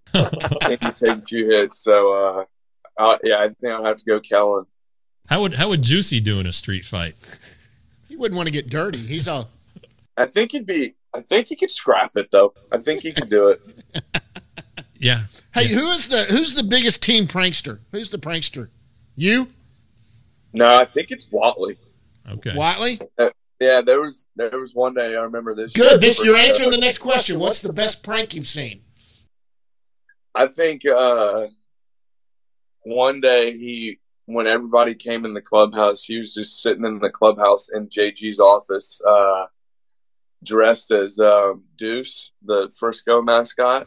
So I think I'll have to go Kellen. How would Juicy do in a street fight? He wouldn't want to get dirty. He's all. I think he'd be I think he could scrap it though. I think he could do it. Yeah. Hey, who's the biggest team prankster? Who's the prankster? You? No, I think it's Watley. Okay. Watley? Yeah, there was one day I remember this. Good. You're answering the next question. What's the best prank you've seen? I think one day when everybody came in the clubhouse, he was just sitting in the clubhouse in JG's office, dressed as Deuce, the Frisco mascot.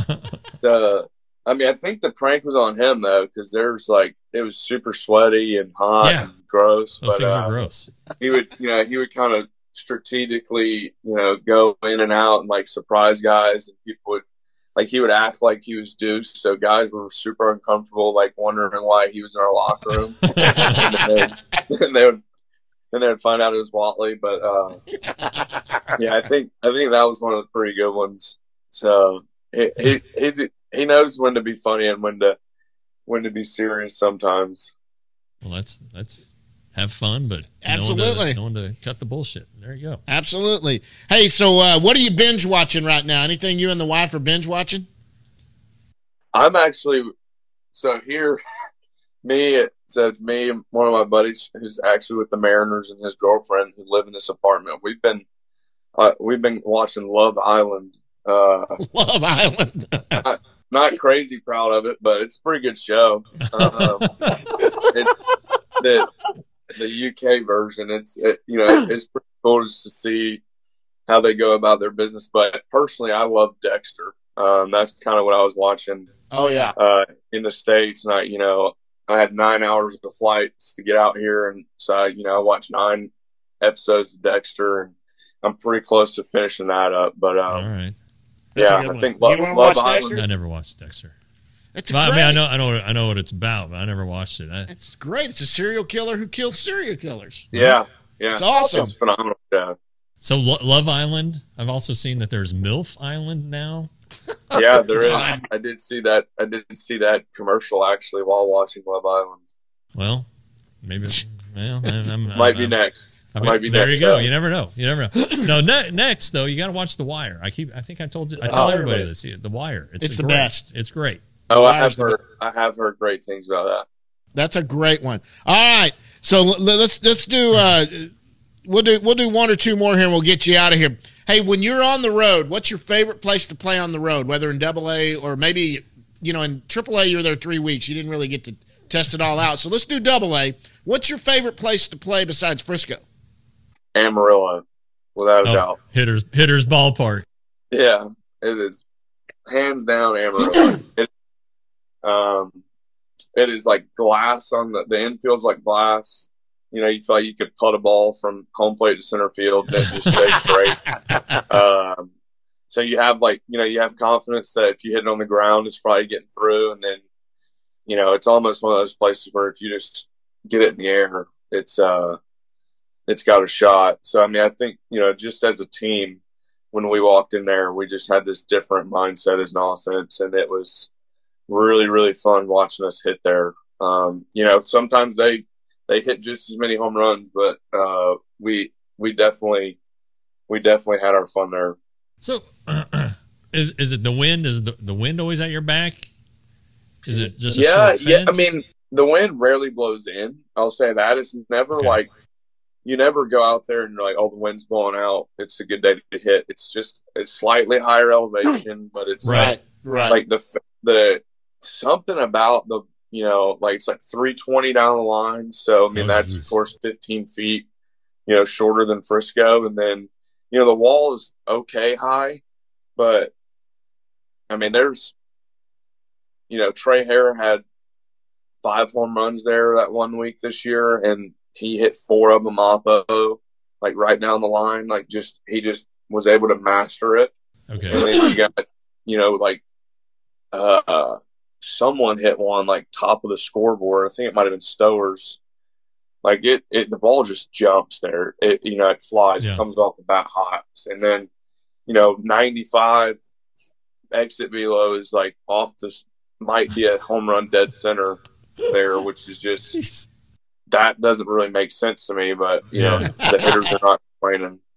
I think the prank was on him though, because it was super sweaty and hot and gross. Those things are gross. He would kind of strategically, go in and out and like surprise guys, and people would. Like he would act like he was Deuce, so guys were super uncomfortable, like wondering why he was in our locker room. and they would find out it was Watley. But yeah, I think that was one of the pretty good ones. So he knows when to be funny and when to be serious sometimes. Well, let's have fun, but absolutely no one to cut the bullshit. There you go. Absolutely. Hey, so what are you binge watching right now? Anything you and the wife are binge watching? I'm actually it's me, one of my buddies who's actually with the Mariners and his girlfriend who live in this apartment. We've been watching Love Island. Love Island. Not crazy proud of it, but it's a pretty good show. The UK version, it's pretty cool just to see how they go about their business. But personally, I love Dexter. That's kind of what I was watching. Oh yeah. In the States, and I had 9 hours of flights to get out here, and so I watched 9 episodes of Dexter, and I'm pretty close to finishing that up. But all right. I think Love Island. I never watched Dexter. It's I mean, I know what it's about, but I never watched it. It's great. It's a serial killer who kills serial killers. Yeah. It's awesome. It's phenomenal. Yeah. So Love Island. I've also seen that there's MILF Island now. Yeah, there is. I did see that. I didn't see that commercial actually while watching Love Island. Well, maybe. Well, might be next. There you go. You never know. No, next though, you got to watch The Wire. I think I told you. I tell everybody this. The Wire. It's the best. It's great. Oh, I have heard great things about that. That's a great one. All right, so let's do. We'll do one or two more here, and we'll get you out of here. Hey, when you're on the road, what's your favorite place to play on the road? Whether in AA or maybe in AAA, you were there 3 weeks. You didn't really get to test it all out. So let's do AA. What's your favorite place to play besides Frisco? Amarillo, without a doubt. Hitters Ballpark. Yeah, it is hands down Amarillo. It is like glass on the infield's like glass. You feel like you could putt a ball from home plate to center field and it just stay straight. So you have you have confidence that if you hit it on the ground, it's probably getting through. And then, it's almost one of those places where if you just get it in the air, it's got a shot. So, I think, just as a team, when we walked in there, we just had this different mindset as an offense, and it was really, really fun watching us hit there. Sometimes they hit just as many home runs, but we definitely had our fun there. So, is it the wind? Is the wind always at your back? Is it just a short fence? The wind rarely blows in. I'll say that. It's never like you never go out there and you're like, oh, the wind's blowing out. It's a good day to hit. It's just a slightly higher elevation, but it's right. Like the something about the it's like 320 down the line. So that's of course 15 feet, shorter than Frisco, and then the wall is okay high, but there's Trey Hare had 5 home runs there that 1 week this year, and he hit 4 of them oppo, like right down the line. He just was able to master it. Okay. And then you got, someone hit one like top of the scoreboard. I think it might have been Stowers. Like the ball just jumps there. It flies. Yeah. It comes off the bat hot. And then, 95 exit velo is like off this, might be a home run dead center there, which is just, that doesn't really make sense to me, but, the hitters are not complaining.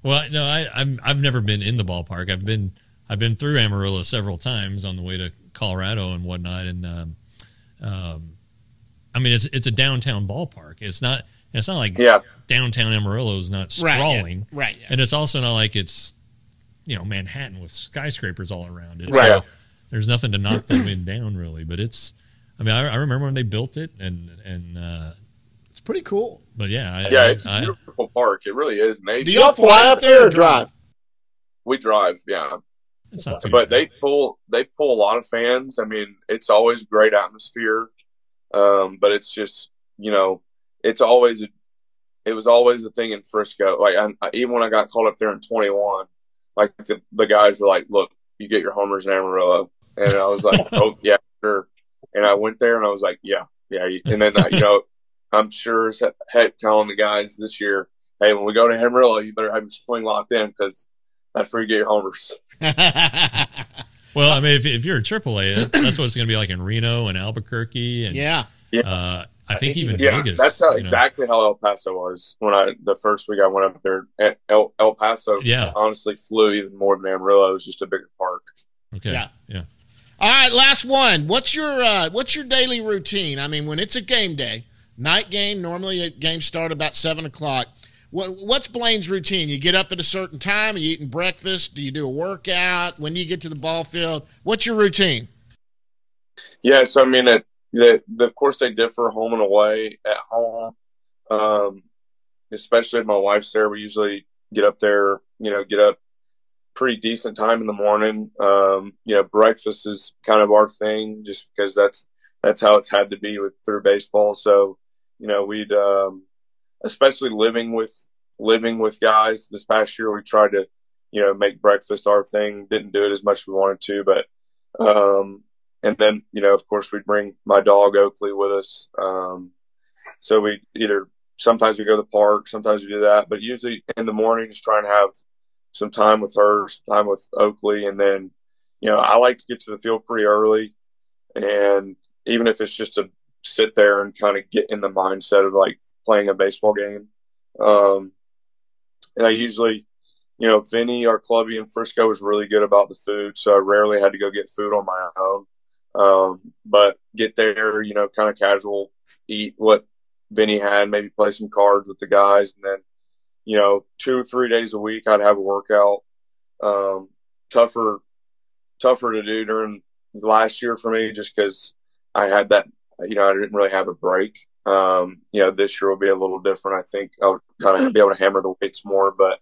Well, no, I've never been in the ballpark. I've been through Amarillo several times on the way to Colorado and whatnot, and I mean it's a downtown ballpark. It's not like downtown Amarillo is not sprawling, right? And it's also not like it's Manhattan with skyscrapers all around it. Right. So there's nothing to knock the wind down really. But I remember when they built it, and It's pretty cool. but yeah, It's a beautiful park. It really is. And Do y'all fly up there or drive? We drive, yeah. it's not too But bad. they pull a lot of fans. I mean, it's always great atmosphere. But it's just, it was always the thing in Frisco. Like, even when I got called up there in 21, like the guys were like, "Look, you get your homers in Amarillo," and I was like, "Oh yeah, sure." And I went there and I was like, "Yeah." And then I'm sure as heck telling the guys this year, "Hey, when we go to Amarillo, you better have your swing locked in because that's where you get your homers." Well, I mean, if you're a AAA, that's what it's going to be like in Reno and Albuquerque, and I think even Vegas. That's exactly how El Paso was when the first week I went up there. El Paso, honestly, flew even more than Amarillo. It was just a bigger park. Okay, yeah. All right, last one. What's your daily routine? I mean, when it's a game day, night game. Normally, games start about 7:00. What's Blaine's routine? You get up at a certain time? Are you eating breakfast? Do you do a workout? When do you get to the ball field? What's your routine? Yeah, so I mean, of course they differ home and away. At home, especially if my wife's there, we usually get up there. Get up pretty decent time in the morning. Breakfast is kind of our thing, just because that's how it's had to be through baseball. So, we'd especially living with guys this past year, we tried to make breakfast our thing. Didn't do it as much as we wanted to, but and then of course we'd bring my dog Oakley with us. So we sometimes we go to the park, sometimes we do that, but usually in the mornings try and have some time with her, some time with Oakley, and then I like to get to the field pretty early, and even if it's just to sit there and kind of get in the mindset of like playing a baseball game. And I usually, Vinny, our clubby in Frisco, was really good about the food, so I rarely had to go get food on my own. But get there, kind of casual, eat what Vinny had, maybe play some cards with the guys, and then, 2 or 3 days a week I'd have a workout. Tougher to do during last year for me, just because I had that, I didn't really have a break. This year will be a little different. I think I'll kind of be able to hammer the weights more, but,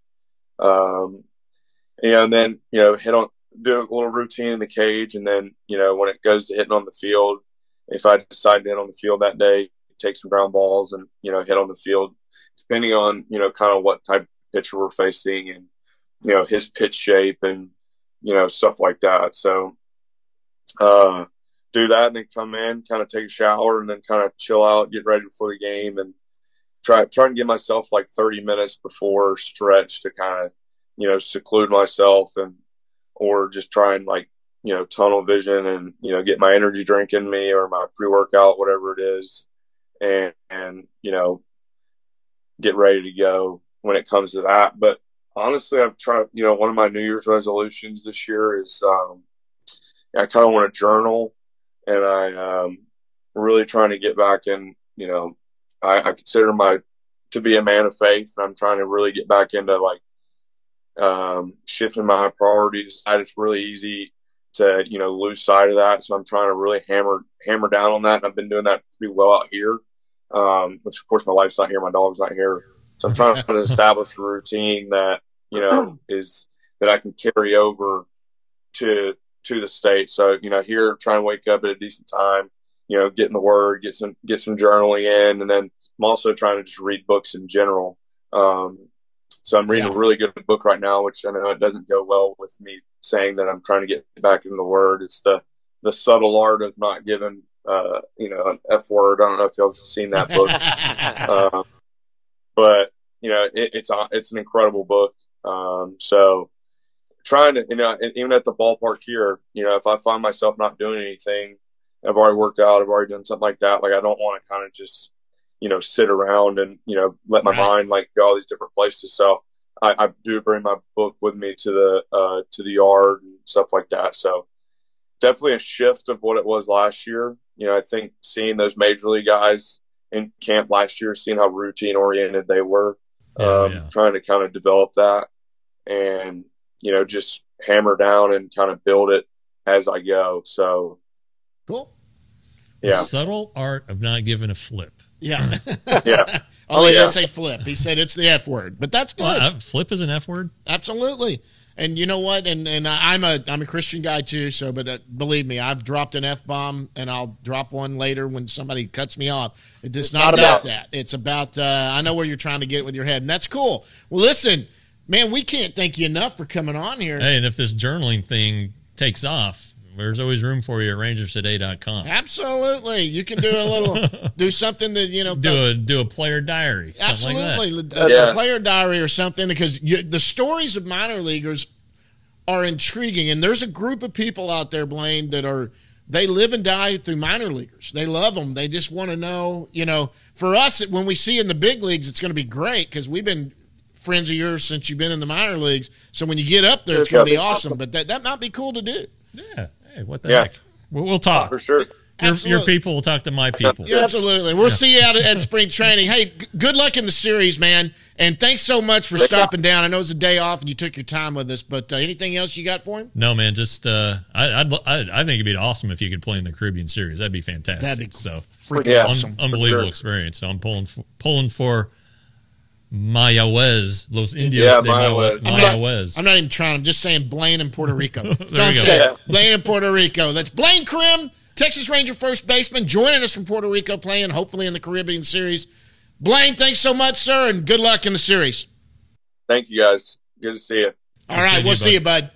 and then, do a little routine in the cage. And then, when it goes to hitting on the field, if I decide to hit on the field that day, take some ground balls and, hit on the field, depending on, kind of what type of pitcher we're facing and, his pitch shape and, stuff like that. So, do that and then come in, kind of take a shower and then kind of chill out, get ready for the game, and try and give myself like 30 minutes before stretch to kind of, seclude myself or just try and like, tunnel vision and, get my energy drink in me or my pre-workout, whatever it is. And, get ready to go when it comes to that. But honestly, I've tried, one of my New Year's resolutions this year is, I kind of want to journal. And I really trying to get back in, I consider to be a man of faith. And I'm trying to really get back into like shifting my priorities. It's really easy to, lose sight of that. So I'm trying to really hammer down on that. And I've been doing that pretty well out here, which of course my wife's not here. My dog's not here. So I'm trying to establish a routine that, is that I can carry over to the state. So, here trying to wake up at a decent time, get in the word, get some journaling in. And then I'm also trying to just read books in general. So I'm reading a really good book right now, which I know it doesn't go well with me saying that I'm trying to get back into the word. It's the subtle art of not giving, an F word. I don't know if y'all have seen that book. But it's an incredible book. So trying to, even at the ballpark here, if I find myself not doing anything, I've already worked out, I've already done something like that. Like, I don't want to kind of just, sit around and, let my mind like go all these different places. So I do bring my book with me to the yard and stuff like that. So definitely a shift of what it was last year. I think seeing those major league guys in camp last year, seeing how routine oriented they were, trying to kind of develop that and, just hammer down and kind of build it as I go. So cool. Yeah. The subtle art of not giving a flip. Yeah. Yeah. He didn't say flip. He said it's the F word, but that's good. Well, flip is an F word? Absolutely. And you know what? And I'm a Christian guy too. So, but believe me, I've dropped an F-bomb, and I'll drop one later when somebody cuts me off. It's not about that. It's about I know where you're trying to get with your head, and that's cool. Well, listen, man, we can't thank you enough for coming on here. Hey, and if this journaling thing takes off, there's always room for you at rangerstoday.com. Absolutely. You can do something that, do a player diary. Absolutely. Like that. A player diary or something, because the stories of minor leaguers are intriguing. And there's a group of people out there, Blaine, they live and die through minor leaguers. They love them. They just want to know, for us, when we see in the big leagues, it's going to be great because we've been friends of yours since you've been in the minor leagues. So when you get up there, it's going to be awesome. But that might be cool to do. Yeah. Hey, what the heck? We'll talk. For sure. Your people will talk to my people. Yeah, absolutely. We'll see you out at spring training. Hey, good luck in the series, man. And thanks so much for stopping down. I know it's a day off and you took your time with us, but anything else you got for him? No, man. Just I think it'd be awesome if you could play in the Caribbean Series. That'd be fantastic. That'd be freaking awesome. Unbelievable experience. So I'm pulling for Mayagüez, Los Indios de Mayagüez. I'm not even trying. I'm just saying Blaine in Puerto Rico. There you go. Blaine in Puerto Rico. That's Blaine Krim, Texas Ranger first baseman, joining us from Puerto Rico, playing hopefully in the Caribbean Series. Blaine, thanks so much, sir, and good luck in the series. Thank you, guys. Good to see you. All right, we'll see you, bud.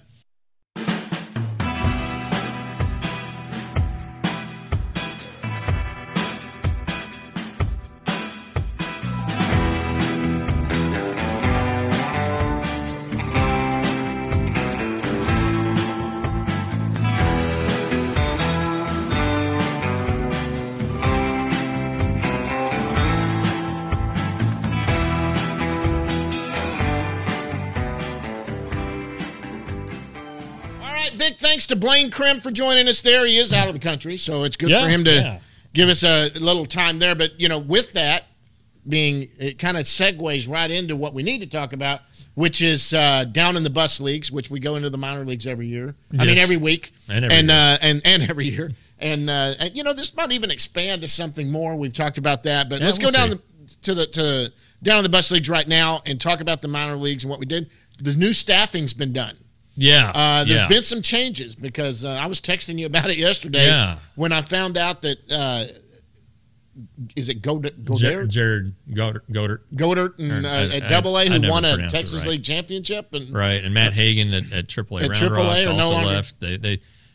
Thanks to Blaine Krim for joining us there. He is out of the country, so it's good for him to give us a little time there. But, with that it kind of segues right into what we need to talk about, which is down in the bus leagues, which we go into the minor leagues every year. Yes. I mean, every week. And every year. And this might even expand to something more. We've talked about that. But let's go down down in the bus leagues right now and talk about the minor leagues and what we did. The new staffing's been done. Yeah. There's been some changes because I was texting you about it yesterday when I found out that is it Godert? Jared Godert. Godert and at Double-A who won a Texas League championship. And Matt Hagan at Triple-A. At Triple-A also left. They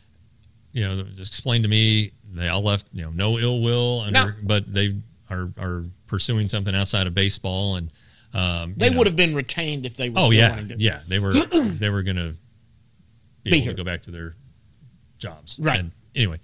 just explained to me they all left, no ill will, but they are pursuing something outside of baseball. And they would have been retained if they were wanting to. Yeah, they were going to be able to go back to their jobs. Right. And anyway,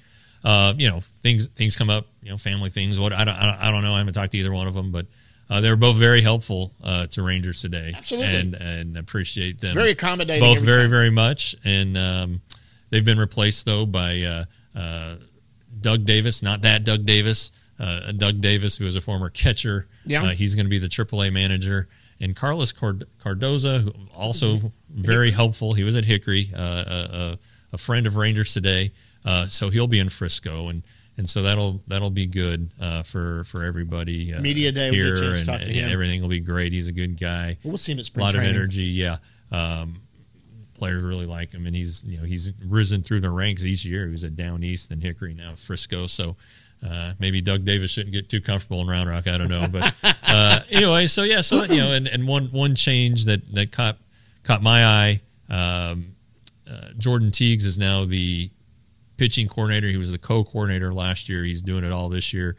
things come up, family things. What I don't know. I haven't talked to either one of them, but they were both very helpful to Rangers today. Absolutely. And appreciate them. Very accommodating. Both very, very much. And they've been replaced though by Doug Davis, not that Doug Davis. Doug Davis, who is a former catcher. Yeah. He's going to be the AAA manager. And Carlos Cardoza, who also very helpful. He was at Hickory, a friend of Rangers today. So he'll be in Frisco, and so that'll be good for everybody. Media day here, we'll get a chance to talk to him. Everything will be great. He's a good guy. We'll see him at spring training. A lot training. of energy. Yeah. Players really like him, and he's risen through the ranks each year. He was at Down East, then Hickory, now Frisco. So. Maybe Doug Davis shouldn't get too comfortable in Round Rock. I don't know, but anyway. So and one change that caught my eye. Jordan Teagues is now the pitching coordinator. He was the co-coordinator last year. He's doing it all this year.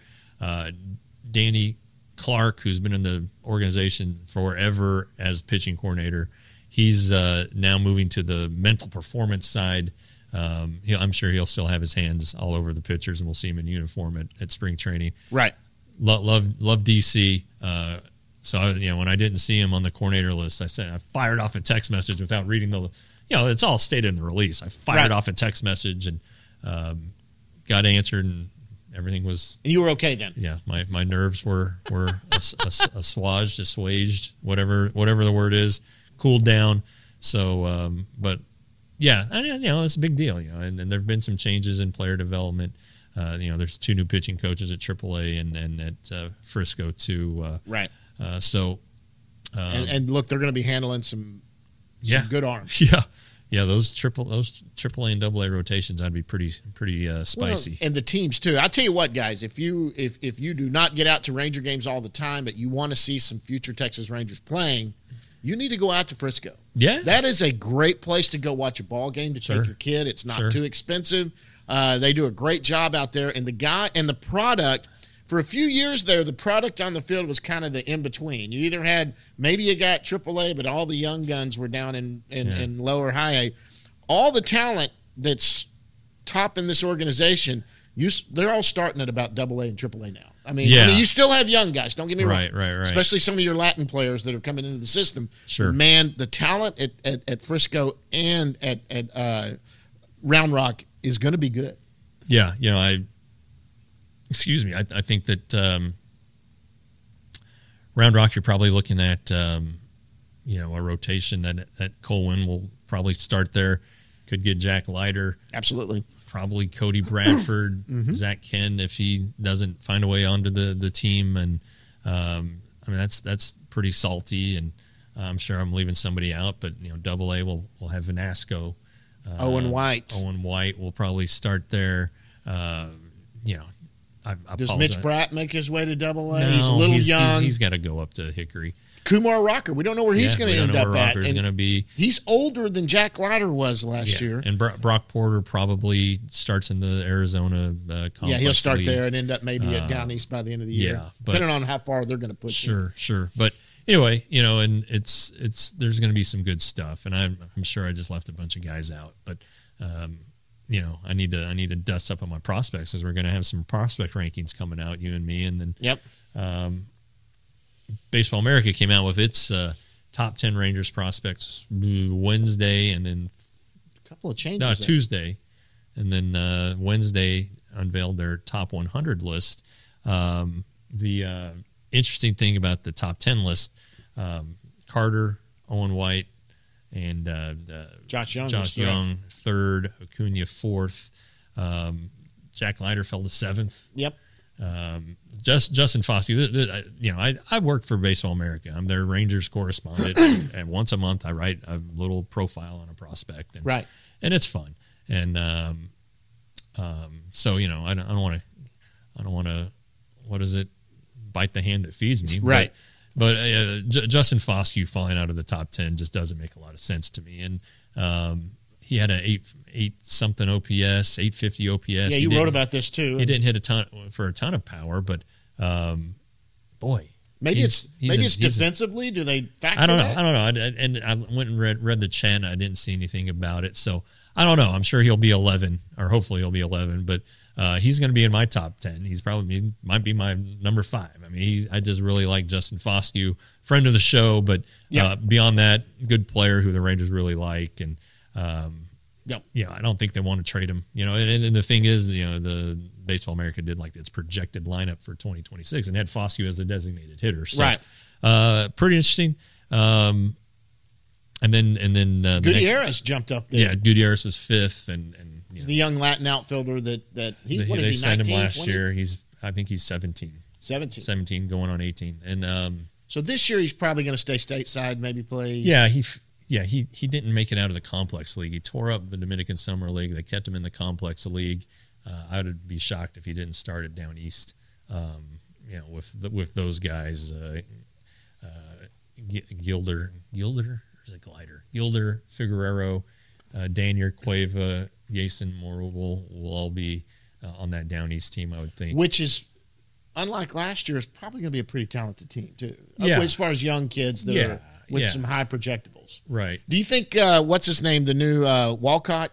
Danny Clark, who's been in the organization forever as pitching coordinator, he's now moving to the mental performance side. I'm sure he'll still have his hands all over the pitchers, and we'll see him in uniform at spring training. Right. Love DC. So when I didn't see him on the coordinator list, I fired off a text message without reading it's all stated in the release. I fired off a text message and got answered, and everything was. And you were okay then. Yeah, my nerves were assuaged, whatever the word is, cooled down. So, but yeah, it's a big deal. And there've been some changes in player development. There's 2 new pitching coaches at AAA and at Frisco too. Right. And look, they're going to be handling some good arms. Yeah, those AAA and AA rotations, I'd be pretty spicy. Well, and the teams too. I'll tell you what, guys, if you do not get out to Ranger games all the time, but you want to see some future Texas Rangers playing, you need to go out to Frisco. Yeah, that is a great place to go watch a ball game to take your kid. It's not too expensive. They do a great job out there, and the product. For a few years there, the product on the field was kind of the in-between. You either had, maybe you got AAA, but all the young guns were down in lower high A. All the talent that's top in this organization, they're all starting at about AA and AAA now. I mean, you still have young guys, don't get me wrong. Right. Especially some of your Latin players that are coming into the system. Sure. Man, the talent at Frisco and at Round Rock is going to be good. Yeah, I think that Round Rock, you're probably looking at a rotation that Colwyn will probably start there. Could get Jack Leiter. Absolutely. Probably Cody Bradford, Zach Ken if he doesn't find a way onto the team. And that's pretty salty. And I'm sure I'm leaving somebody out, but AA will have Vanasco. Owen White. Owen White will probably start there. Does Mitch Bratt make his way to AA? No, he's a little young. He's got to go up to Hickory. Kumar Rocker, we don't know where he's going to end up at. Going to be. He's older than Jack Leiter was last year. And Brock Porter probably starts in the Arizona complex. Yeah, he'll start league. there and end up maybe at Down East by the end of the year. Depending on how far they're going to push. Sure. But anyway, and it's there's going to be some good stuff, and I'm sure I just left a bunch of guys out, but. I need to dust up on my prospects as we're going to have some prospect rankings coming out, you and me, and then Baseball America came out with its top 10 Rangers prospects Wednesday, and then a couple of changes. Tuesday, and then Wednesday unveiled their top 100 list. The interesting thing about the top 10 list: Carter, Owen White, and Josh Young third, Acuna fourth, Jack Leiter fell to seventh. Yep. Justin Foskey. I work for Baseball America. I'm their Rangers correspondent, and once a month I write a little profile on a prospect, and it's fun. And so I don't want to. What is it? Bite the hand that feeds me. Right. But Justin Foskey falling out of the top 10 just doesn't make a lot of sense to me. And he had an 8 something OPS, 850 OPS. Yeah, you wrote about this too. He didn't hit a ton of power, but boy, maybe it's defensively. Do they factor? I don't know. And I went and read the chat. And I didn't see anything about it, so I don't know. I'm sure he'll be 11, or hopefully he'll be 11, but. He's going to be in my top 10. Might be my number 5. I mean, I just really like Justin Foskey, friend of the show, but beyond that, good player who the Rangers really like. And I don't think they want to trade him. And the thing is, the Baseball America did like its projected lineup for 2026 and had Foskey as a designated hitter. So, pretty interesting. And then Gutierrez jumped up there. Yeah, Gutierrez was 5th, and he's the young Latin outfielder that he. What is they he? signed 19, him last 20? year. I think he's 17. 17 going on 18, and so this year he's probably going to stay stateside, maybe play. Yeah, he didn't make it out of the complex league. He tore up the Dominican Summer League. They kept him in the complex league. I would be shocked if he didn't start it down east. With those guys, Gilder, or is it Glider? Gilder, Figueroa, Daniel Cueva, Jason Moore will all be on that down east team, I would think. Which is, unlike last year, is probably going to be a pretty talented team too. Yeah. As far as young kids that are with some high projectables. Right. Do you think what's his name, the new Walcott?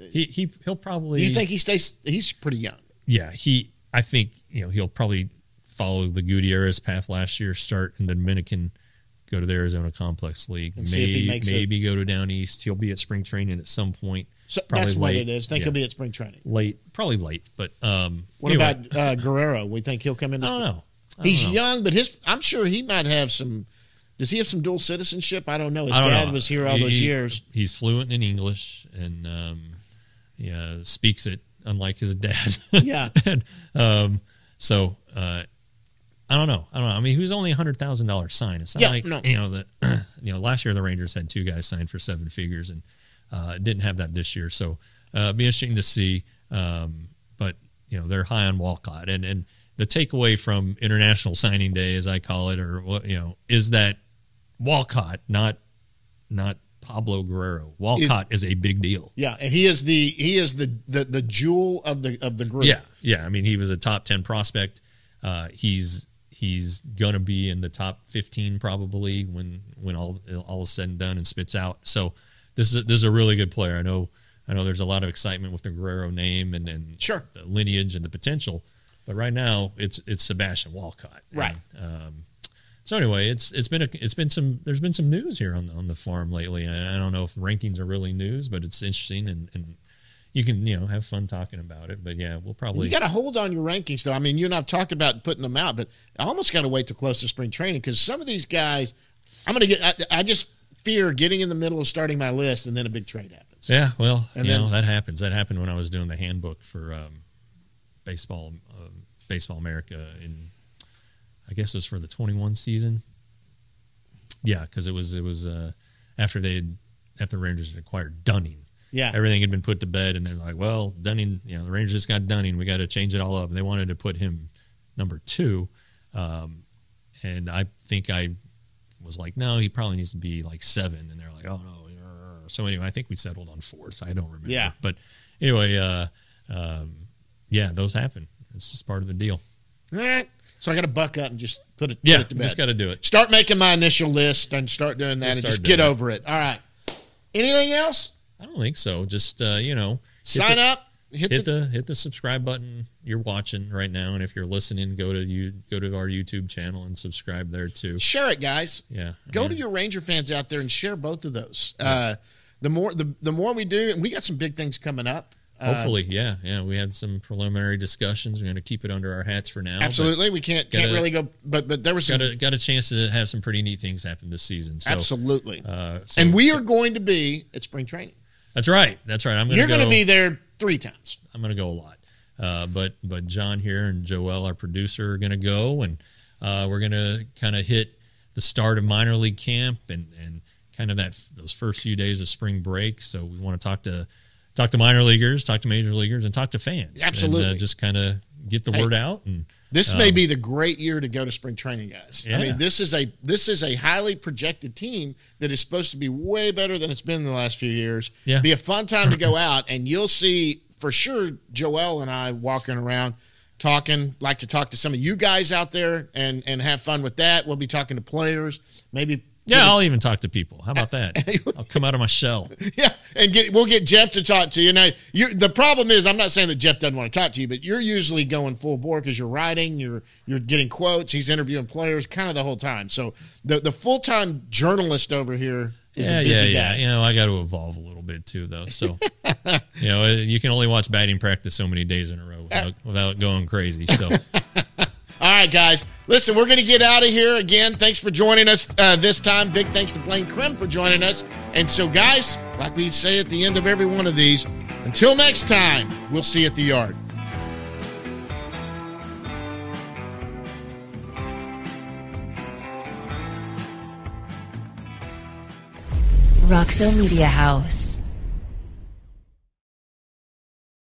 He'll probably. Do you think he stays? He's pretty young. Yeah. I think he'll probably follow the Gutierrez path last year, start in the Dominican, go to the Arizona Complex League, And see if he makes maybe go to Down East. He'll be at spring training at some point. So Probably that's what late. it is. Think Yeah. he'll be at spring training. Probably late. But What anyway, about Guerrero? We think he'll come in. I don't know. He's young, but I'm sure he might have some. Does he have some dual citizenship? I don't know. His dad was here all those years. He's fluent in English and speaks it unlike his dad. Yeah. And, so I don't know. I mean, he was only $100,000 sign. It's not last year the Rangers had 2 guys signed for 7 figures and didn't have that this year. So it'd be interesting to see. But they're high on Walcott, and the takeaway from International Signing Day, as I call it, or what is that Walcott, not Pablo Guerrero. Walcott is a big deal. Yeah, and he is the jewel of the group. Yeah. I mean, he was a top 10 prospect. He's gonna be in the top 15 probably when all is said and done and spits out. So this is a really good player. I know there's a lot of excitement with the Guerrero name and sure, the lineage and the potential, but right now it's Sebastian Walcott. Right. And, so anyway, there's been some news here on the farm lately. I don't know if rankings are really news, but it's interesting and you can have fun talking about it. But yeah, we'll probably you got to hold on your rankings though. I mean, you and I've talked about putting them out, but I almost got to wait till close to spring training because some of these guys, I just fear getting in the middle of starting my list and then a big trade happens. Yeah, well, that happens. That happened when I was doing the handbook for baseball America I guess it was for the 21 season. Yeah, because it was after the Rangers had acquired Dunning. Yeah, everything had been put to bed, and they're like, "Well, Dunning, the Rangers just got Dunning. We got to change it all up." And they wanted to put him number 2, and I think I was like, "No, he probably needs to be like 7." And they're like, "Oh no." So anyway, I think we settled on 4th. I don't remember. Yeah, but anyway, those happen. It's just part of the deal. All right. So I got to buck up and just put it to bed. Just got to do it. Start making my initial list and start doing that and just get over it. All right. Anything else? I don't think so. Just sign up. Hit the subscribe button you're watching right now, and if you're listening, go to our YouTube channel and subscribe there too. Share it, guys. Yeah. Go to your Ranger fans out there and share both of those. Yeah. The more we do, and we got some big things coming up. Hopefully, yeah. We had some preliminary discussions. We're going to keep it under our hats for now. Absolutely, we can't really go. But there was got a chance to have some pretty neat things happen this season. So, absolutely, and we are going to be at spring training. That's right. You're going to be there 3 times. I'm going to go a lot. But John here and Joel, our producer, are going to go, and we're going to kind of hit the start of minor league camp and kind of those first few days of spring break. So we want to talk to minor leaguers, talk to major leaguers, and talk to fans. Absolutely. And just kind of get the word out. And this may be the great year to go to spring training, guys. Yeah. I mean, this is a highly projected team that is supposed to be way better than it's been in the last few years. Yeah. Be a fun time to go out, and you'll see for sure Joel and I walking around talking, like to talk to some of you guys out there and have fun with that. We'll be talking to players, maybe. Yeah, I'll even talk to people. How about that? I'll come out of my shell. Yeah, and we'll get Jeff to talk to you. Now, the problem is, I'm not saying that Jeff doesn't want to talk to you, but you're usually going full bore because you're writing, you're getting quotes, he's interviewing players, kind of the whole time. So the full time journalist over here is a busy guy. Yeah. I got to evolve a little bit too, though. So you can only watch batting practice so many days in a row without going crazy. So. All right, guys. Listen, we're going to get out of here again. Thanks for joining us this time. Big thanks to Blaine Krim for joining us. And so, guys, like we say at the end of every one of these, until next time, we'll see you at the yard. Roxo Media House.